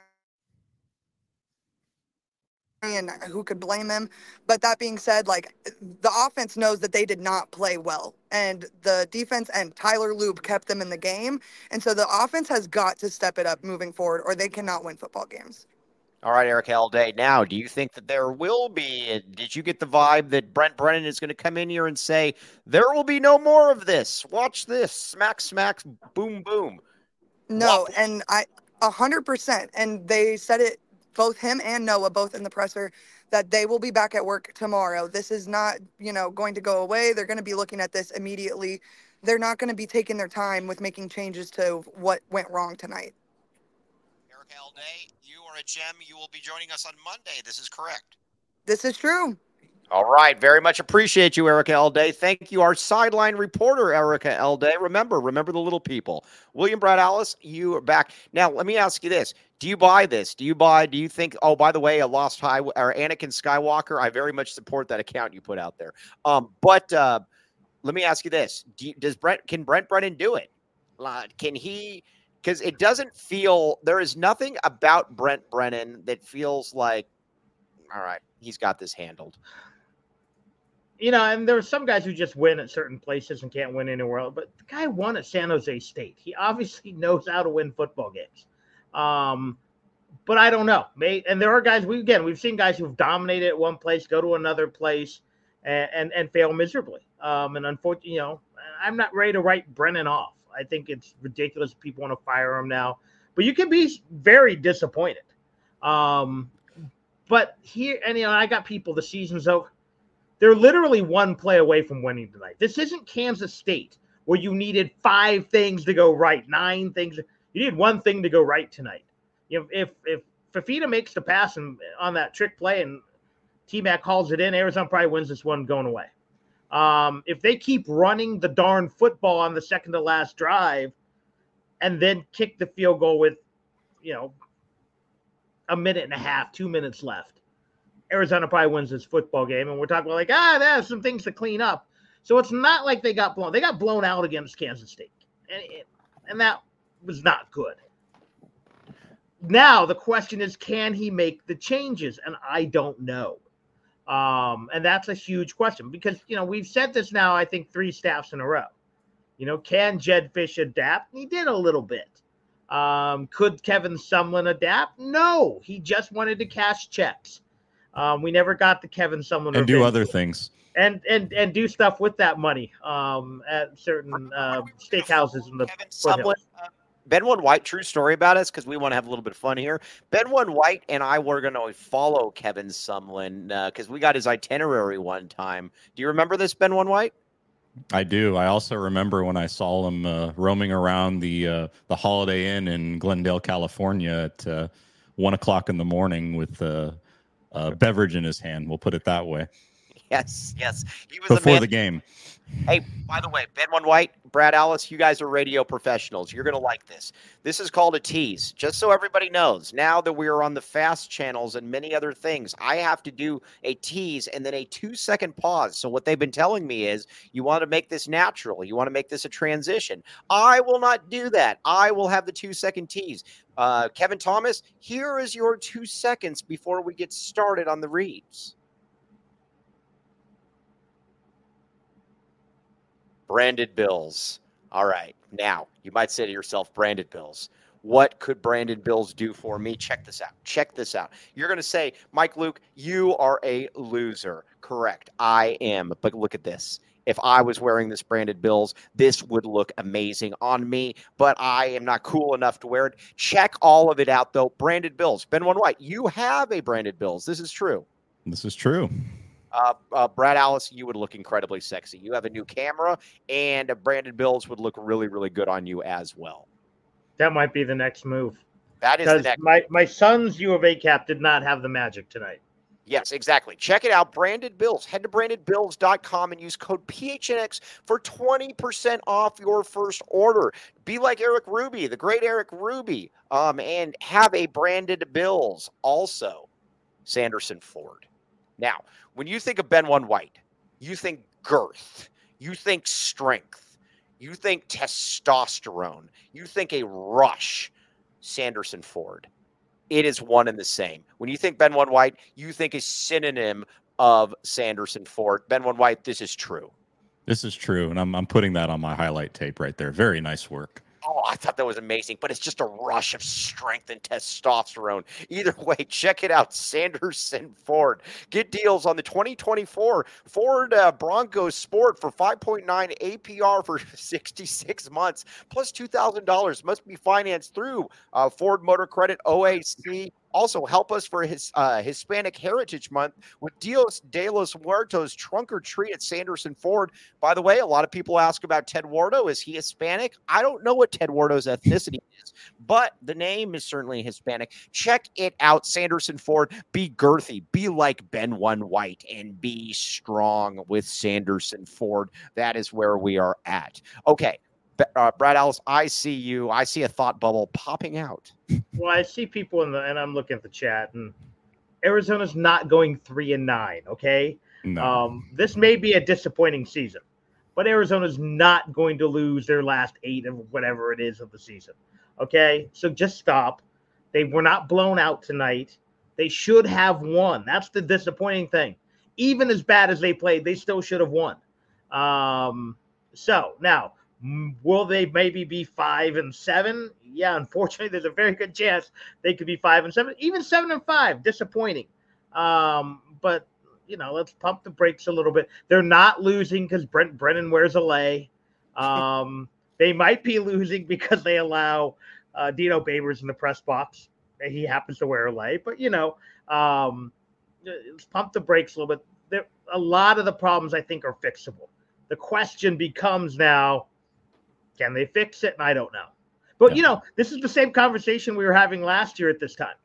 and who could blame him? But that being said, like, the offense knows that they did not play well, and the defense and Tyler Loop kept them in the game. And so the offense has got to step it up moving forward, or they cannot win football games. All right, Eric Alday. Now, do you think that there will be, did you get the vibe that Brent Brennan is going to come in here and say, there will be no more of this? Watch this. Smack, smack, boom, boom. No, Wop. And I, a hundred percent. And they said it, both him and Noah, both in the presser, that they will be back at work tomorrow. This is not, you know, going to go away. They're going to be looking at this immediately. They're not going to be taking their time with making changes to what went wrong tonight. Eric Alday, you are a gem. You will be joining us on Monday. This is correct. This is true. All right. Very much appreciate you, Erica Alday. Thank you, our sideline reporter, Erica Alday. Remember, remember the little people. William Brad Alice, you are back. Now, let me ask you this. Do you buy this? Do you buy, do you think, oh, by the way, a Lost High, or Anakin Skywalker, I very much support that account you put out there. Um, but uh, let me ask you this. Do you, does Brent, can Brent Brennan do it? Uh, can he, because it doesn't feel, there is nothing about Brent Brennan that feels like, all right, he's got this handled. You know, and there are some guys who just win at certain places and can't win anywhere else. But the guy won at San Jose State. He obviously knows how to win football games. Um, but I don't know. May, and there are guys, we again, we've seen guys who've dominated at one place, go to another place, and and, and fail miserably. Um, and unfortunately, you know, I'm not ready to write Brennan off. I think it's ridiculous people want to fire him now. But you can be very disappointed. Um, but here, and you know, I got people, the season's over. They're literally one play away from winning tonight. This isn't Kansas State where you needed five things to go right, nine things. You need one thing to go right tonight. You know, if if Fafita makes the pass and, on that trick play and T-Mac calls it in, Arizona probably wins this one going away. Um, if they keep running the darn football on the second to last drive and then kick the field goal with, you know, a minute and a half, two minutes left, Arizona probably wins this football game. And we're talking about like, ah, there's some things to clean up. So it's not like they got blown. They got blown out against Kansas State. And, it, and that was not good. Now the question is, can he make the changes? And I don't know. Um, and that's a huge question because, you know, we've said this now, I think three staffs in a row. You know, can Jedd Fisch adapt? He did a little bit. Um, could Kevin Sumlin adapt? No, he just wanted to cash checks. Um, we never got the Kevin Sumlin and do other things and and and do stuff with that money um, at certain uh, steakhouses in the Kevin Sumlin, uh, Ben One White, true story about us because we want to have a little bit of fun here. Ben One White and I were going to follow Kevin Sumlin because uh, we got his itinerary one time. Do you remember this, Ben One White? I do. I also remember when I saw him uh, roaming around the uh, the Holiday Inn in Glendale, California at uh, one o'clock in the morning with uh, a beverage in his hand. We'll put it that way. Yes, yes. He was before a man. the game. Hey, by the way, Ben One White, Brad Alice, you guys are radio professionals. You're going to like this. This is called a tease. Just so everybody knows, now that we are on the fast channels and many other things, I have to do a tease and then a two-second pause. So what they've been telling me is you want to make this natural. You want to make this a transition. I will not do that. I will have the two-second tease. Uh, Kevin Thomas, here is your two seconds before we get started on the reads. Branded Bills. All right. Now, you might say to yourself, Branded Bills. What could Brandon Bills do for me? Check this out. Check this out. You're going to say, Mike Luke, you are a loser. Correct. I am. But look at this. If I was wearing this Branded Bills, this would look amazing on me, but I am not cool enough to wear it. Check all of it out, though. Branded Bills. Ben One White, you have a Branded Bills. This is true. This is true. Uh, uh, Brad Alice, you would look incredibly sexy. You have a new camera, and a Branded Bills would look really, really good on you as well. That might be the next move. That is the next. My, my son's U of A cap did not have the magic tonight. Yes, exactly. Check it out. Branded Bills. Head to branded bills dot com and use code P H N X for twenty percent off your first order. Be like Eric Ruby, the great Eric Ruby, um, and have a Branded Bills. Also, Sanderson Ford. Now, when you think of Ben One White, you think girth. You think strength. You think testosterone. You think a rush. Sanderson Ford. It is one and the same. When you think Ben One White, you think a synonym of Sanderson Ford. Ben One White, this is true. This is true, and I'm I'm putting that on my highlight tape right there. Very nice work. Oh, I thought that was amazing, but it's just a rush of strength and testosterone. Either way, check it out, Sanderson Ford. Get deals on the twenty twenty-four Ford uh, Bronco Sport for five point nine A P R for sixty-six months, plus two thousand dollars. Must be financed through uh, Ford Motor Credit, O A C. Also, help us for his uh, Hispanic Heritage Month with Dios de los Muertos Trunk or Treat at Sanderson Ford. By the way, a lot of people ask about Ted Wardo. Is he Hispanic? I don't know what Ted Wardo's ethnicity is, but the name is certainly Hispanic. Check it out, Sanderson Ford. Be girthy, be like Ben One White, and be strong with Sanderson Ford. That is where we are at. Okay. Uh, Brad Ellis, I see you. I see a thought bubble popping out. Well, I see people in the, and I'm looking at the chat, and Arizona's not going three and nine. Okay, No. um, this may be a disappointing season, but Arizona's not going to lose their last eight of whatever it is of the season. Okay, so just stop. They were not blown out tonight. They should have won. That's the disappointing thing. Even as bad as they played, they still should have won. Um, so now. Will they maybe be five and seven? Yeah, unfortunately, there's a very good chance they could be five and seven, even seven and five. Disappointing. Um, but you know, let's pump the brakes a little bit. They're not losing because Brent Brennan wears a lei. Um, they might be losing because they allow uh, Dino Babers in the press box. He happens to wear a lei, but you know, um, let's pump the brakes a little bit. There, a lot of the problems I think are fixable. The question becomes now. Can they fix it? And I don't know. But, yeah. you know, this is the same conversation we were having last year at this time.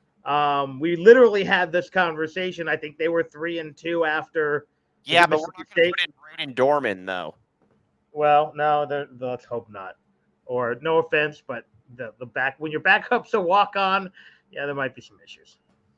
Um, we literally had this conversation. I think they were three and two after. Yeah, but we're not going to put in Braden Dorman, though. Well, no, let's hope not. Or no offense, but the, the back when your backup's a walk-on, yeah, there might be some issues.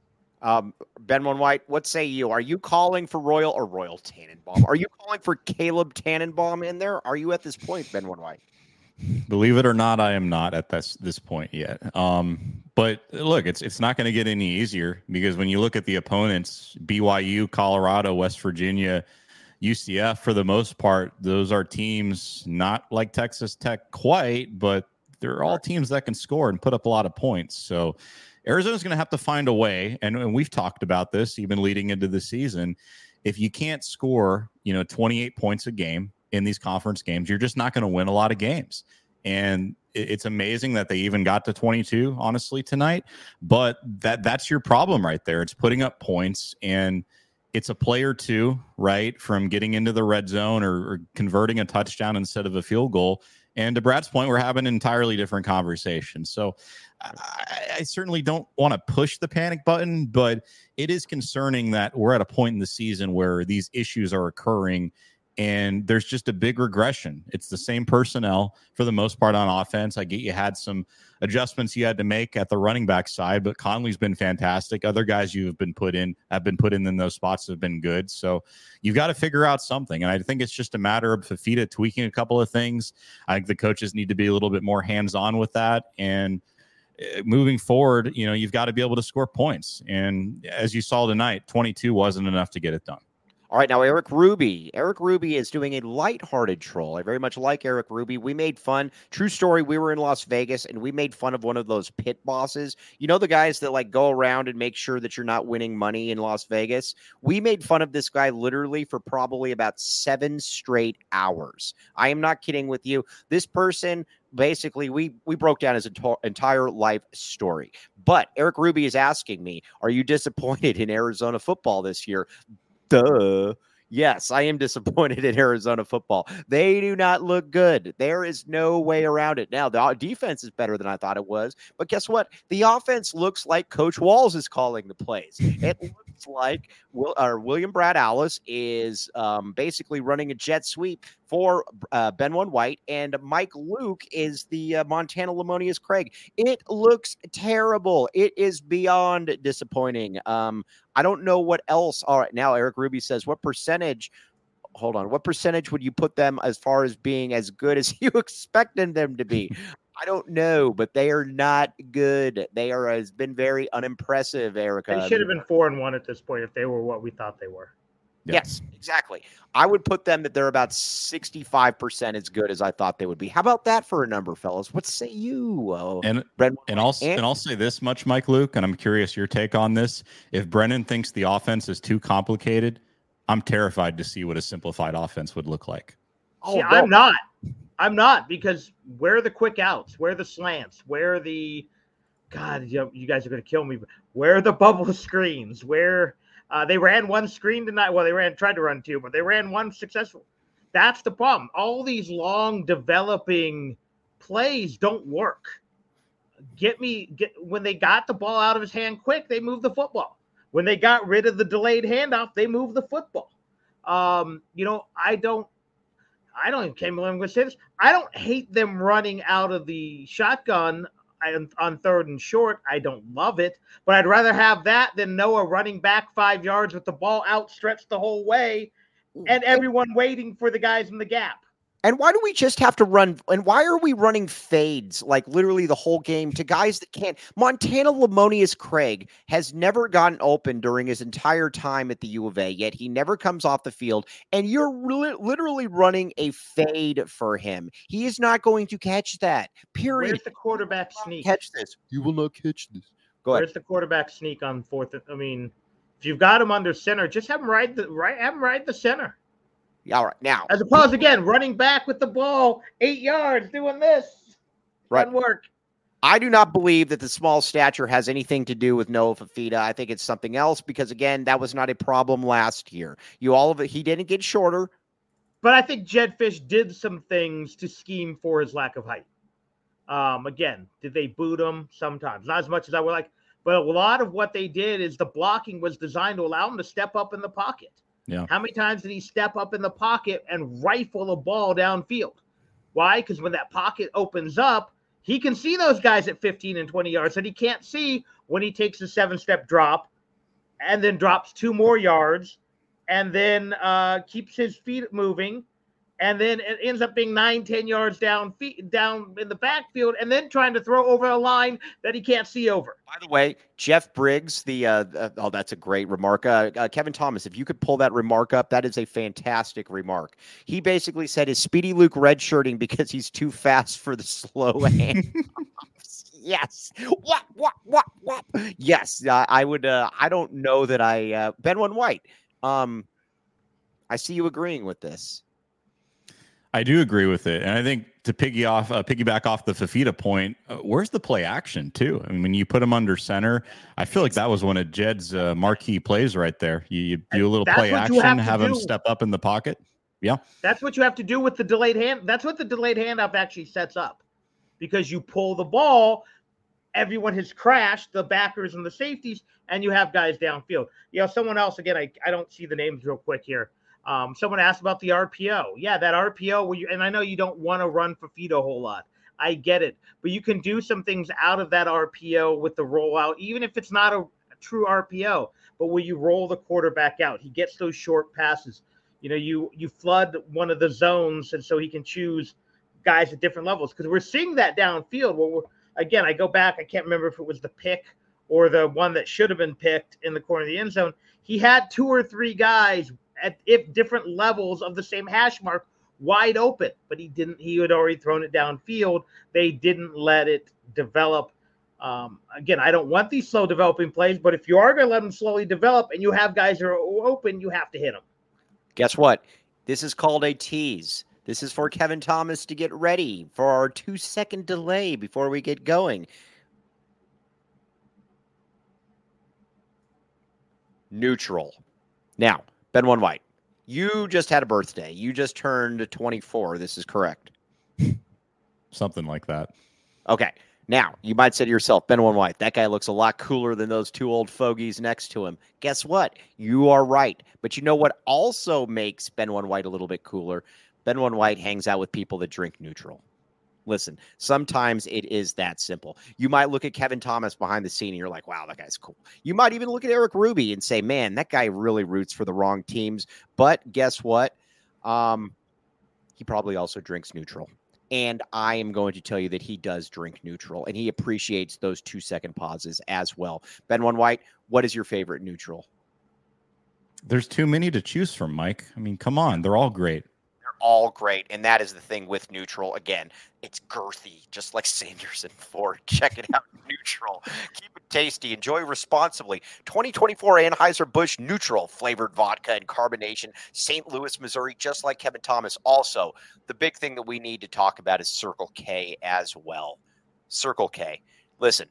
Um, Ben One White, what say you? Are you calling for Royal or Royal Tannenbaum? Are you calling for Caleb Tannenbaum in there? Are you at this point, Ben One White? Believe it or not, I am not at this this point yet. Um, but look, it's it's not going to get any easier because when you look at the opponents, B Y U, Colorado, West Virginia, U C F, for the most part, those are teams not like Texas Tech quite, but they're all teams that can score and put up a lot of points. So Arizona's going to have to find a way, and, and we've talked about this even leading into the season. If you can't score, you know, twenty-eight points a game in these conference games, you're just not going to win a lot of games. And it, it's amazing that they even got to twenty-two, honestly, tonight. But that that's your problem right there. It's putting up points, and it's a play or two, right, from getting into the red zone or, or converting a touchdown instead of a field goal. And to Brad's point, we're having an entirely different conversation. So I, I certainly don't want to push the panic button, but it is concerning that we're at a point in the season where these issues are occurring and there's just a big regression. It's the same personnel for the most part on offense. I get you had some adjustments you had to make at the running back side, but Conley's been fantastic. Other guys you have been put in have been put in in those spots have been good. So you've got to figure out something. And I think it's just a matter of Fifita tweaking a couple of things. I think the coaches need to be a little bit more hands-on with that. And moving forward, you know, you've got to be able to score points. And as you saw tonight, twenty-two wasn't enough to get it done. All right, now Eric Ruby. Eric Ruby is doing a lighthearted troll. I very much like Eric Ruby. We made fun. True story, we were in Las Vegas, and we made fun of one of those pit bosses. You know the guys that, like, go around and make sure that you're not winning money in Las Vegas? We made fun of this guy literally for probably about seven straight hours. I am not kidding with you. This person, basically, we we broke down his ento- entire life story. But Eric Ruby is asking me, are you disappointed in Arizona football this year? Duh. Yes, I am disappointed in Arizona football. They do not look good. There is no way around it. Now, the defense is better than I thought it was. But guess what? The offense looks like Coach Walls is calling the plays. It looks like Will, or William Brad Alice is um, basically running a jet sweep for uh, Ben One White, and Mike Luke is the uh, Montana Lamonius Craig. It looks terrible. It is beyond disappointing. Um, I don't know what else. All right, now Eric Ruby says, what percentage hold on. What percentage would you put them as far as being as good as you expected them to be? I don't know, but they are not good. They are has been very unimpressive, Erica. They should have been four and one at this point if they were what we thought they were. Yes, exactly. I would put them that they're about sixty-five percent as good as I thought they would be. How about that for a number, fellas? What say you? Oh, and Brendan, and I'll and, and I'll say this much, Mike Luke, and I'm curious your take on this. If Brennan thinks the offense is too complicated, I'm terrified to see what a simplified offense would look like. Oh, see, no. I'm not. I'm not because where are the quick outs? Where are the slants? Where are the God? You, you guys are going to kill me. But where are the bubble screens? Where Uh, they ran one screen tonight. Well, they ran tried to run two, but they ran one successful. That's the problem. All these long developing plays don't work. Get me get when they got the ball out of his hand quick, they moved the football. When they got rid of the delayed handoff, they moved the football. Um, you know, I don't I don't even can't believe I'm going to say this. I don't hate them running out of the shotgun on third and short. I don't love it, but I'd rather have that than Noah running back five yards with the ball outstretched the whole way and everyone waiting for the guys in the gap. And why do we just have to run? And why are we running fades like literally the whole game to guys that can't? Montana Lamonius Craig has never gotten open during his entire time at the U of A, yet he never comes off the field. And you're li- literally running a fade for him. He is not going to catch that. Period. Where's the quarterback sneak? Catch this. You will not catch this. Go ahead. Where's the quarterback sneak on fourth? I mean, if you've got him under center, just have him ride the right. Have him ride the center. All right, now. As opposed, again, running back with the ball, eight yards, doing this. Right. Doesn't work. I do not believe that the small stature has anything to do with Noah Fifita. I think it's something else because, again, that was not a problem last year. You all of it, he didn't get shorter. But I think Jedd Fisch did some things to scheme for his lack of height. Um, again, did they boot him? Sometimes. Not as much as I would like. But a lot of what they did is the blocking was designed to allow him to step up in the pocket. Yeah. How many times did he step up in the pocket and rifle a ball downfield? Why? Because when that pocket opens up, he can see those guys at fifteen and twenty yards that he can't see when he takes a seven-step drop and then drops two more yards and then uh, keeps his feet moving. And then it ends up being nine, ten yards down feet, down in the backfield, and then trying to throw over a line that he can't see over. By the way, Jeff Briggs, the uh, uh, oh, that's a great remark. Uh, uh, Kevin Thomas, if you could pull that remark up, that is a fantastic remark. He basically said, "Is Speedy Luke redshirting because he's too fast for the slow hand?" Yes. What? What? What? What? Yes. Uh, I would. Uh, I don't know that I. Uh, Ben One White. Um, I see you agreeing with this. I do agree with it, and I think to piggy off, uh, piggyback off the Fifita point, uh, where's the play action too? I mean, when you put him under center, I feel like that was one of Jedd's uh, marquee plays right there. You, you do a little That's play action, have, have him step up in the pocket. Yeah, that's what you have to do with the delayed hand. That's what the delayed handoff actually sets up, because you pull the ball, everyone has crashed, the backers and the safeties, and you have guys downfield. You know, someone else again. I I don't see the names real quick here. Um, someone asked about the R P O. Yeah, that R P O where you, and I know you don't want to run Fifita a whole lot. I get it. But you can do some things out of that R P O with the rollout, even if it's not a, a true R P O. But when you roll the quarterback out, he gets those short passes. You know, you you flood one of the zones, and so he can choose guys at different levels. Because we're seeing that downfield. Where we're, again, I go back. I can't remember if it was the pick or the one that should have been picked in the corner of the end zone. He had two or three guys at if different levels of the same hash mark wide open, but he didn't, he had already thrown it downfield. They didn't let it develop. Um, again, I don't want these slow developing plays, but if you are going to let them slowly develop and you have guys that are open, you have to hit them. Guess what? This is called a tease. This is for Kevin Thomas to get ready for our two second delay before we get going. Neutral. Now, Ben One White, you just had a birthday. You just turned twenty-four. This is correct. Something like that. Okay. Now, you might say to yourself, Ben One White, that guy looks a lot cooler than those two old fogies next to him. Guess what? You are right. But you know what also makes Ben One White a little bit cooler? Ben One White hangs out with people that drink neutral. Listen, sometimes it is that simple. You might look at Kevin Thomas behind the scene and you're like, wow, that guy's cool. You might even look at Eric Ruby and say, man, that guy really roots for the wrong teams. But guess what? Um, he probably also drinks neutral. And I am going to tell you that he does drink neutral, and he appreciates those two-second pauses as well. Ben One White, what is your favorite neutral? There's too many to choose from, Mike. I mean, come on. They're all great. They're all great, and that is the thing with neutral. Again, it's girthy, just like Sanders and Ford. Check it out, neutral. Keep it tasty. Enjoy responsibly. twenty twenty-four Anheuser-Busch Neutral flavored vodka and carbonation, Saint Louis, Missouri, just like Kevin Thomas. Also, the big thing that we need to talk about is Circle K as well. Circle K. Listen,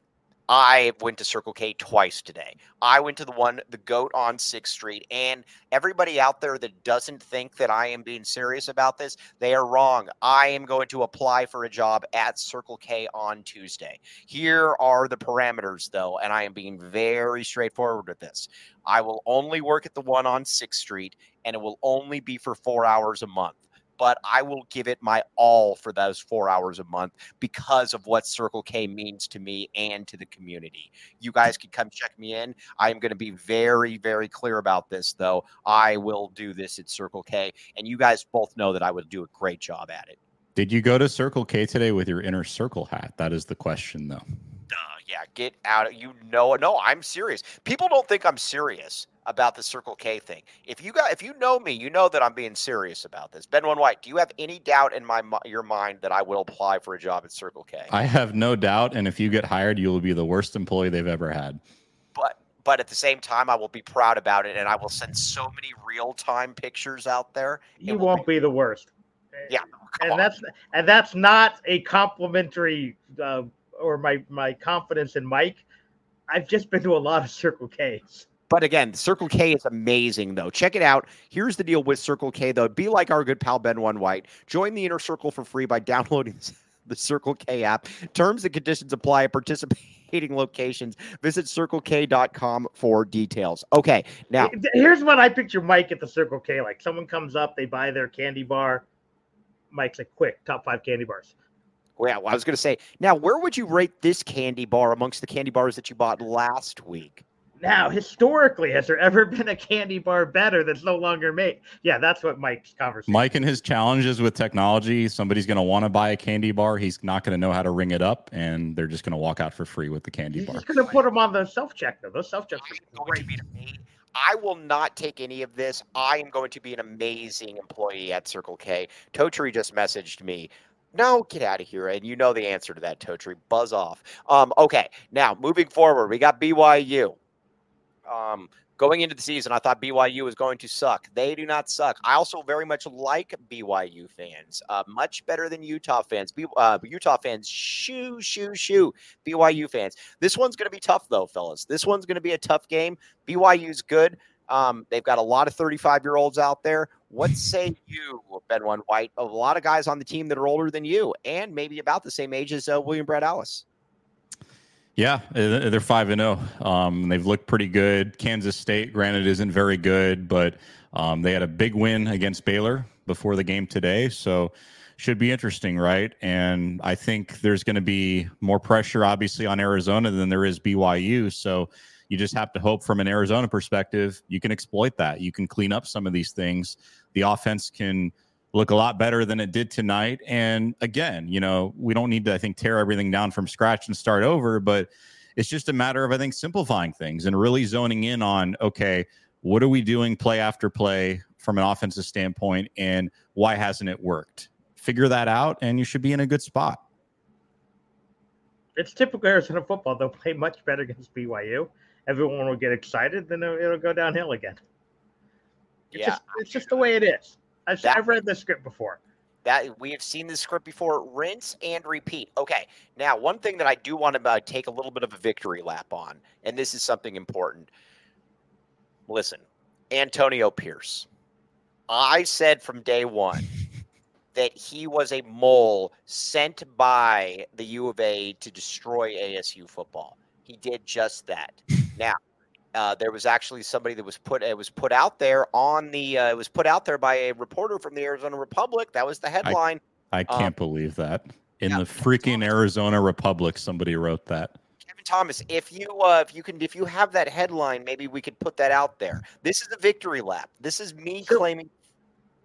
I went to Circle K twice today. I went to the one, the GOAT on sixth Street, and everybody out there that doesn't think that I am being serious about this, they are wrong. I am going to apply for a job at Circle K on Tuesday. Here are the parameters, though, and I am being very straightforward with this. I will only work at the one on sixth Street, and it will only be for four hours a month. But I will give it my all for those four hours a month because of what Circle K means to me and to the community. You guys can come check me in. I am going to be very, very clear about this, though. I will do this at Circle K, and you guys both know that I would do a great job at it. Did you go to Circle K today with your Inner Circle hat? That is the question, though. Duh, yeah, get out. You know, no, I'm serious. People don't think I'm serious about the Circle K thing. If you got, if you know me, you know that I'm being serious about this. Ben One White, do you have any doubt in my your mind that I will apply for a job at Circle K? I have no doubt, and if you get hired, you will be the worst employee they've ever had. But but at the same time, I will be proud about it, and I will send so many real-time pictures out there. You won't be, be the worst. Yeah, and on. that's and that's not a complimentary uh, or my my confidence in Mike. I've just been to a lot of Circle K's. But again, Circle K is amazing, though. Check it out. Here's the deal with Circle K, though. Be like our good pal Ben One White. Join the Inner Circle for free by downloading the Circle K app. Terms and conditions apply at participating locations. Visit circle k dot com for details. Okay, now. Here's what I picture Mike at the Circle K. Like, someone comes up, they buy their candy bar. Mike's like, quick, top five candy bars. Well, I was going to say, now, where would you rate this candy bar amongst the candy bars that you bought last week? Now, historically, has there ever been a candy bar better that's no longer made? Yeah, that's what Mike's conversation. Mike and his challenges with technology, somebody's going to want to buy a candy bar. He's not going to know how to ring it up, and they're just going to walk out for free with the candy He's bar. He's going to put them on the self-check, though. Those self-checks are great. I will not take any of this. I am going to be an amazing employee at Circle K. Totri just messaged me. No, get out of here. And you know the answer to that, Totri. Buzz off. Um, okay, now, moving forward, we got B Y U. Um, going into the season, I thought B Y U was going to suck. They do not suck. I also very much like B Y U fans, uh, much better than Utah fans. B- uh, Utah fans, shoo, shoo, shoo. B Y U fans. This one's going to be tough, though, fellas. This one's going to be a tough game. B Y U's good. Um, they've got a lot of thirty-five-year-olds out there. What say you, Ben One White? A lot of guys on the team that are older than you and maybe about the same age as uh, William Brad Ellis. Yeah, they're five and zero. Um, they've looked pretty good. Kansas State, granted, isn't very good, but um, they had a big win against Baylor before the game today, so should be interesting, right? And I think there's going to be more pressure, obviously, on Arizona than there is B Y U. So you just have to hope, from an Arizona perspective, you can exploit that. You can clean up some of these things. The offense can look a lot better than it did tonight. And again, you know, we don't need to, I think, tear everything down from scratch and start over, but it's just a matter of, I think, simplifying things and really zoning in on, okay, what are we doing play after play from an offensive standpoint, and why hasn't it worked? Figure that out, and you should be in a good spot. It's typical Arizona football. They'll play much better against B Y U. Everyone will get excited, then it'll, it'll go downhill again. It's Yeah. just, it's just the way it is. I've, That- I've read the script before. That we have seen this script before. Rinse and repeat. Okay. Now, one thing that I do want to uh, take a little bit of a victory lap on, and this is something important. Listen, Antonio Pierce. I said from day one that he was a mole sent by the U of A to destroy A S U football. He did just that. Now, Uh, there was actually somebody that was put it was put out there on the uh, it was put out there by a reporter from the Arizona Republic. That was the headline. I, I can't Um, believe that. In yeah, the freaking Arizona Republic, somebody wrote that. Kevin Thomas, if you uh, if you can if you have that headline, maybe we could put that out there. This is a victory lap. This is me claiming.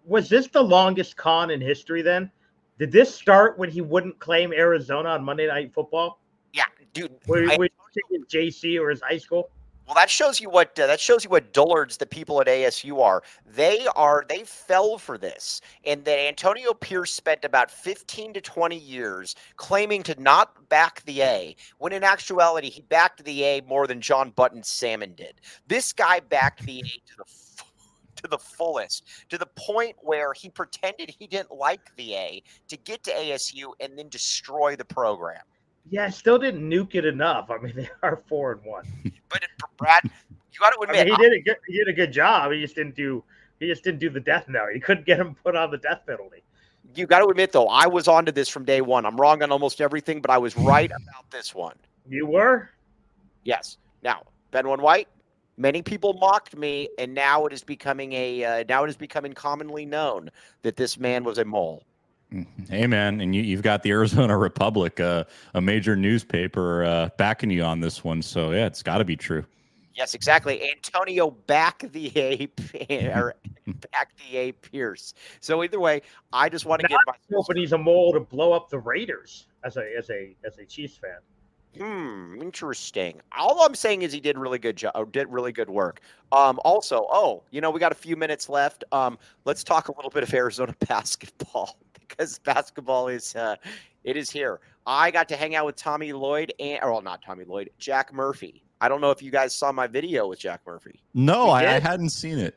was this the longest con in history then? Did this start when he wouldn't claim Arizona on Monday Night Football? Yeah, dude. Where I, he his J C or his high school? well, that shows you what uh, that shows you what dullards the people at A S U are. They are they fell for this, and that Antonio Pierce spent about fifteen to twenty years claiming to not back the A, when in actuality he backed the A more than John Button Salmon did. This guy backed the A to the to the fullest, to the point where he pretended he didn't like the A to get to A S U and then destroy the program. Yeah, still didn't nuke it enough. I mean, they are four and one. But Brad, you got to admit, I mean, he did a good, he did a good job. He just didn't do he just didn't do the death note. He couldn't get him put on the death penalty. You got to admit, though, I was onto this from day one. I'm wrong on almost everything, but I was right about this one. You were? Yes. Now, Ben One White, many people mocked me, and now it is becoming a uh, now it is becoming commonly known that this man was a mole. Hey, man, and you, you've got the Arizona Republic, uh, a major newspaper, uh, backing you on this one. So, yeah, it's got to be true. Yes, exactly. Antonio back the A, or back the A Pierce. So either way, I just want to get my. But he's a mole to blow up the Raiders as a as a as a Chiefs fan. Hmm, interesting. All I'm saying is he did really good job, did really good work. Um, also, oh, you know, we got a few minutes left. Um, let's talk a little bit of Arizona basketball. Because basketball is uh, it is here. I got to hang out with Tommy Lloyd and or well, not Tommy Lloyd, Jack Murphy. I don't know if you guys saw my video with Jack Murphy. No, I, I hadn't seen it.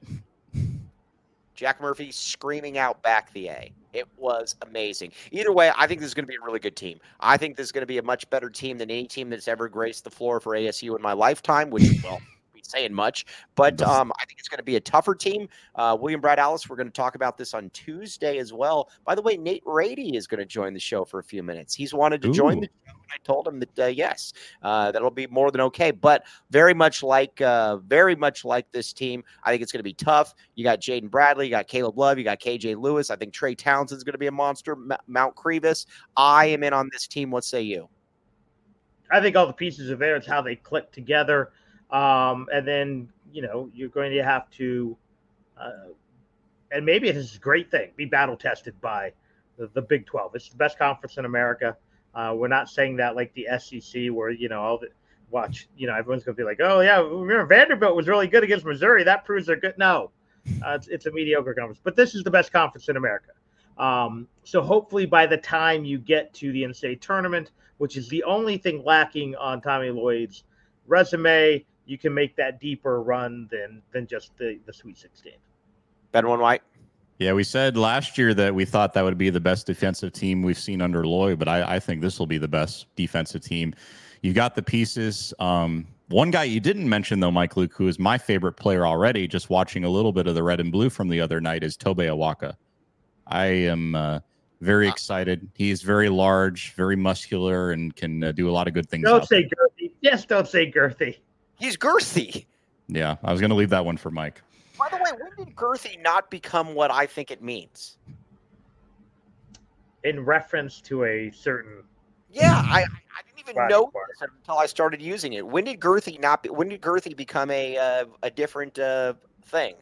Jack Murphy screaming out back the A. It was amazing. Either way, I think this is going to be a really good team. I think this is going to be a much better team than any team that's ever graced the floor for A S U in my lifetime, which, well, saying much, but um, I think it's going to be a tougher team. Uh, William Brad Alice, we're going to talk about this on Tuesday as well. By the way, Nate Rady is going to join the show for a few minutes. He's wanted to Ooh. join the show. I told him that uh, yes, uh, that'll be more than okay. But very much like, uh, very much like this team, I think it's going to be tough. You got Jaden Bradley, you got Caleb Love, you got K J Lewis. I think Trey Townsend is going to be a monster. M- Mount Crevis. I am in on this team. What say you? I think all the pieces are there. It's how they click together. Um, and then, you know, you're going to have to, uh, and maybe it is a great thing, be battle tested by the, the Big twelve. It's the best conference in America. Uh, we're not saying that like the S E C where, you know, all the watch, you know, everyone's going to be like, oh, yeah, remember Vanderbilt was really good against Missouri. That proves they're good. No, uh, it's, it's a mediocre conference. But this is the best conference in America. Um, so hopefully by the time you get to the N C double A tournament, which is the only thing lacking on Tommy Lloyd's resume, you can make that deeper run than than just the, the Sweet sixteen. Ben One White. Yeah, we said last year that we thought that would be the best defensive team we've seen under Lloyd, but I, I think this will be the best defensive team. You got the pieces. Um, one guy you didn't mention, though, Mike Luke, who is my favorite player already, just watching a little bit of the red and blue from the other night, is Tobe Awaka. I am uh, very excited. He's very large, very muscular, and can uh, do a lot of good things. Don't say girthy. Yes, don't say girthy. He's girthy. Yeah, I was going to leave that one for Mike. By the way, when did girthy not become what I think it means? In reference to a certain. Yeah, I, I didn't even know this until I started using it. When did girthy not? Be, when did girthy become a uh, a different uh, thing?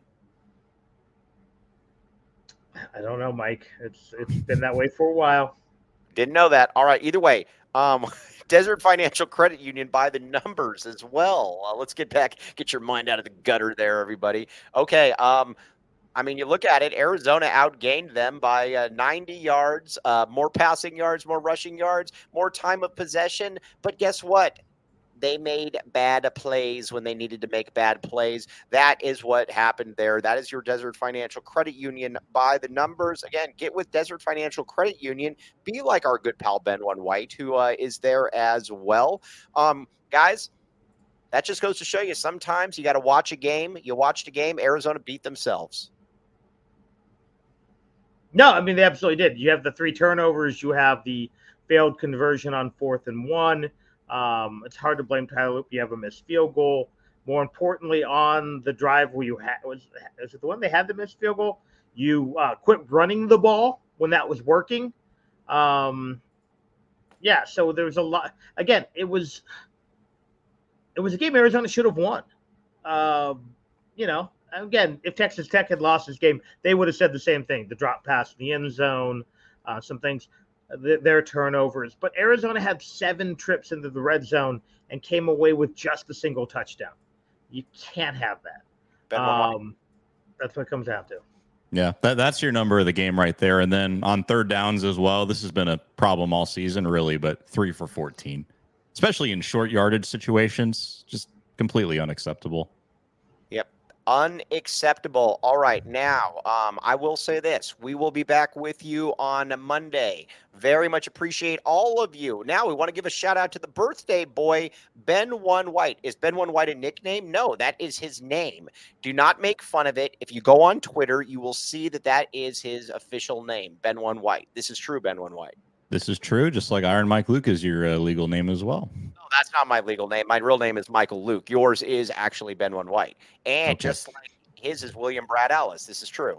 I don't know, Mike. It's it's been that way for a while. Didn't know that. All right. Either way, um, Desert Financial Credit Union by the numbers as well. Uh, let's get back, get your mind out of the gutter there, everybody. Okay. Um, I mean, you look at it, Arizona outgained them by uh, ninety yards, uh, more passing yards, more rushing yards, more time of possession. But guess what? They made bad plays when they needed to make bad plays. That is what happened there. That is your Desert Financial Credit Union by the numbers. Again, get with Desert Financial Credit Union. Be like our good pal Ben One White, who uh, is there as well. Um, guys, that just goes to show you sometimes you got to watch a game. You watched a game, Arizona beat themselves. No, I mean, they absolutely did. You have the three turnovers. You have the failed conversion on fourth and one. Um, it's hard to blame Tyler Loop. You have a missed field goal. More importantly, on the drive where you had was is it the one they had the missed field goal? You uh, quit running the ball when that was working. Um, yeah, so there was a lot. Again, it was it was a game Arizona should have won. Uh, you know, again, if Texas Tech had lost this game, they would have said the same thing. The drop pass in the end zone, uh, some things, th- their turnovers. But Arizona had seven trips into the red zone and came away with just a single touchdown. You can't have that. Um, that's what it comes down to. Yeah, that, that's your number of the game right there. And then on third downs as well, this has been a problem all season, really, but three for fourteen, especially in short yardage situations, just completely unacceptable. Yep. Unacceptable. All right. Now, um, I will say this. We will be back with you on Monday. Very much appreciate all of you. Now, we want to give a shout out to the birthday boy, Ben One White. Is Ben One White a nickname? No, that is his name. Do not make fun of it. If you go on Twitter, you will see that that is his official name, Ben One White. This is true, Ben One White. This is true, just like Iron Mike Luke is your uh, legal name as well. No, that's not my legal name. My real name is Michael Luke. Yours is actually Ben One White. And Okay. just like his is William Brad Ellis. This is true.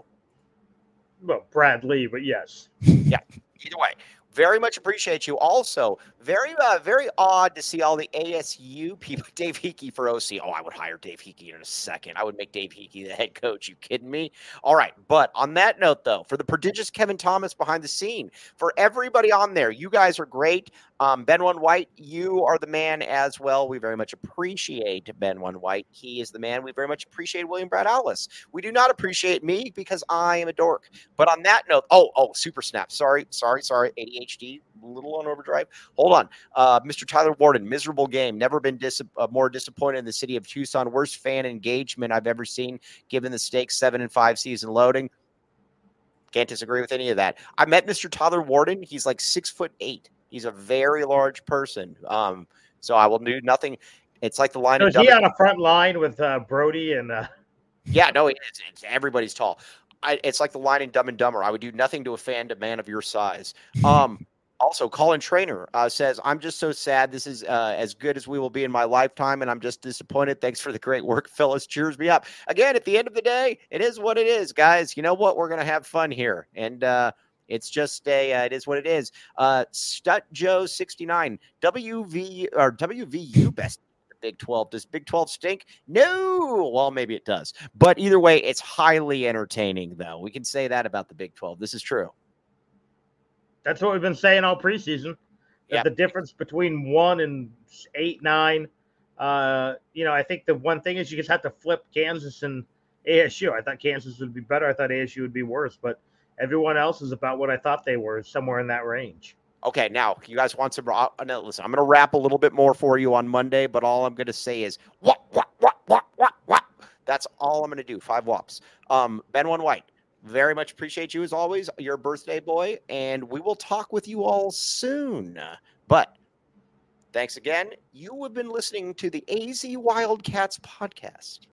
Well, Brad Lee, but yes. Yeah, either way. Very much appreciate you. Also, very, uh, very odd to see all the A S U people. Dave Hickey for O C. Oh, I would hire Dave Hickey in a second. I would make Dave Hickey the head coach. You kidding me? All right. But on that note, though, for the prodigious Kevin Thomas behind the scene, for everybody on there, you guys are great. Um, Ben One White, you are the man as well. We very much appreciate Ben One White. He is the man. We very much appreciate William Brad Ellis. We do not appreciate me because I am a dork. But on that note, oh, oh, super snap. Sorry, sorry, sorry. A D H D, a little on overdrive. Hold on. Uh, Mister Tyler Warden, miserable game. Never been dis- uh, more disappointed in the city of Tucson. Worst fan engagement I've ever seen, given the stakes, seven and five season loading. Can't disagree with any of that. I met Mister Tyler Warden. He's like six foot eight. He's a very large person. Um, so I will do nothing. It's like the line. So of is he Dumb- on a front line with uh, Brody and? Uh... Yeah, no, it is. It's, everybody's tall. I, it's like the line in Dumb and Dumber. I would do nothing to offend a man of your size. Um, also, Colin Trainer uh, says, I'm just so sad. This is uh, as good as we will be in my lifetime, and I'm just disappointed. Thanks for the great work, Phyllis. Cheers me up. Again, at the end of the day, it is what it is, guys. You know what? We're going to have fun here. And uh, it's just a, uh, it is what it is. Uh, Stut Joe sixty-nine, W V or W V U best. Big twelve. Does Big twelve stink? No. Well, maybe it does. But either way, it's highly entertaining, though. We can say that about the Big twelve. This is true. That's what we've been saying all preseason. That Yeah. the difference between one and eight, nine. Uh, you know, I think the one thing is you just have to flip Kansas and A S U. I thought Kansas would be better. I thought A S U would be worse. But everyone else is about what I thought they were, somewhere in that range. Okay, now you guys want some? Uh, no, listen, I'm going to wrap a little bit more for you on Monday, but all I'm going to say is what, what, what, what, what, what. That's all I'm going to do. Five whops. Um, Ben One White, very much appreciate you as always. Your birthday boy, and we will talk with you all soon. But thanks again. You have been listening to the A Z Wildcats podcast.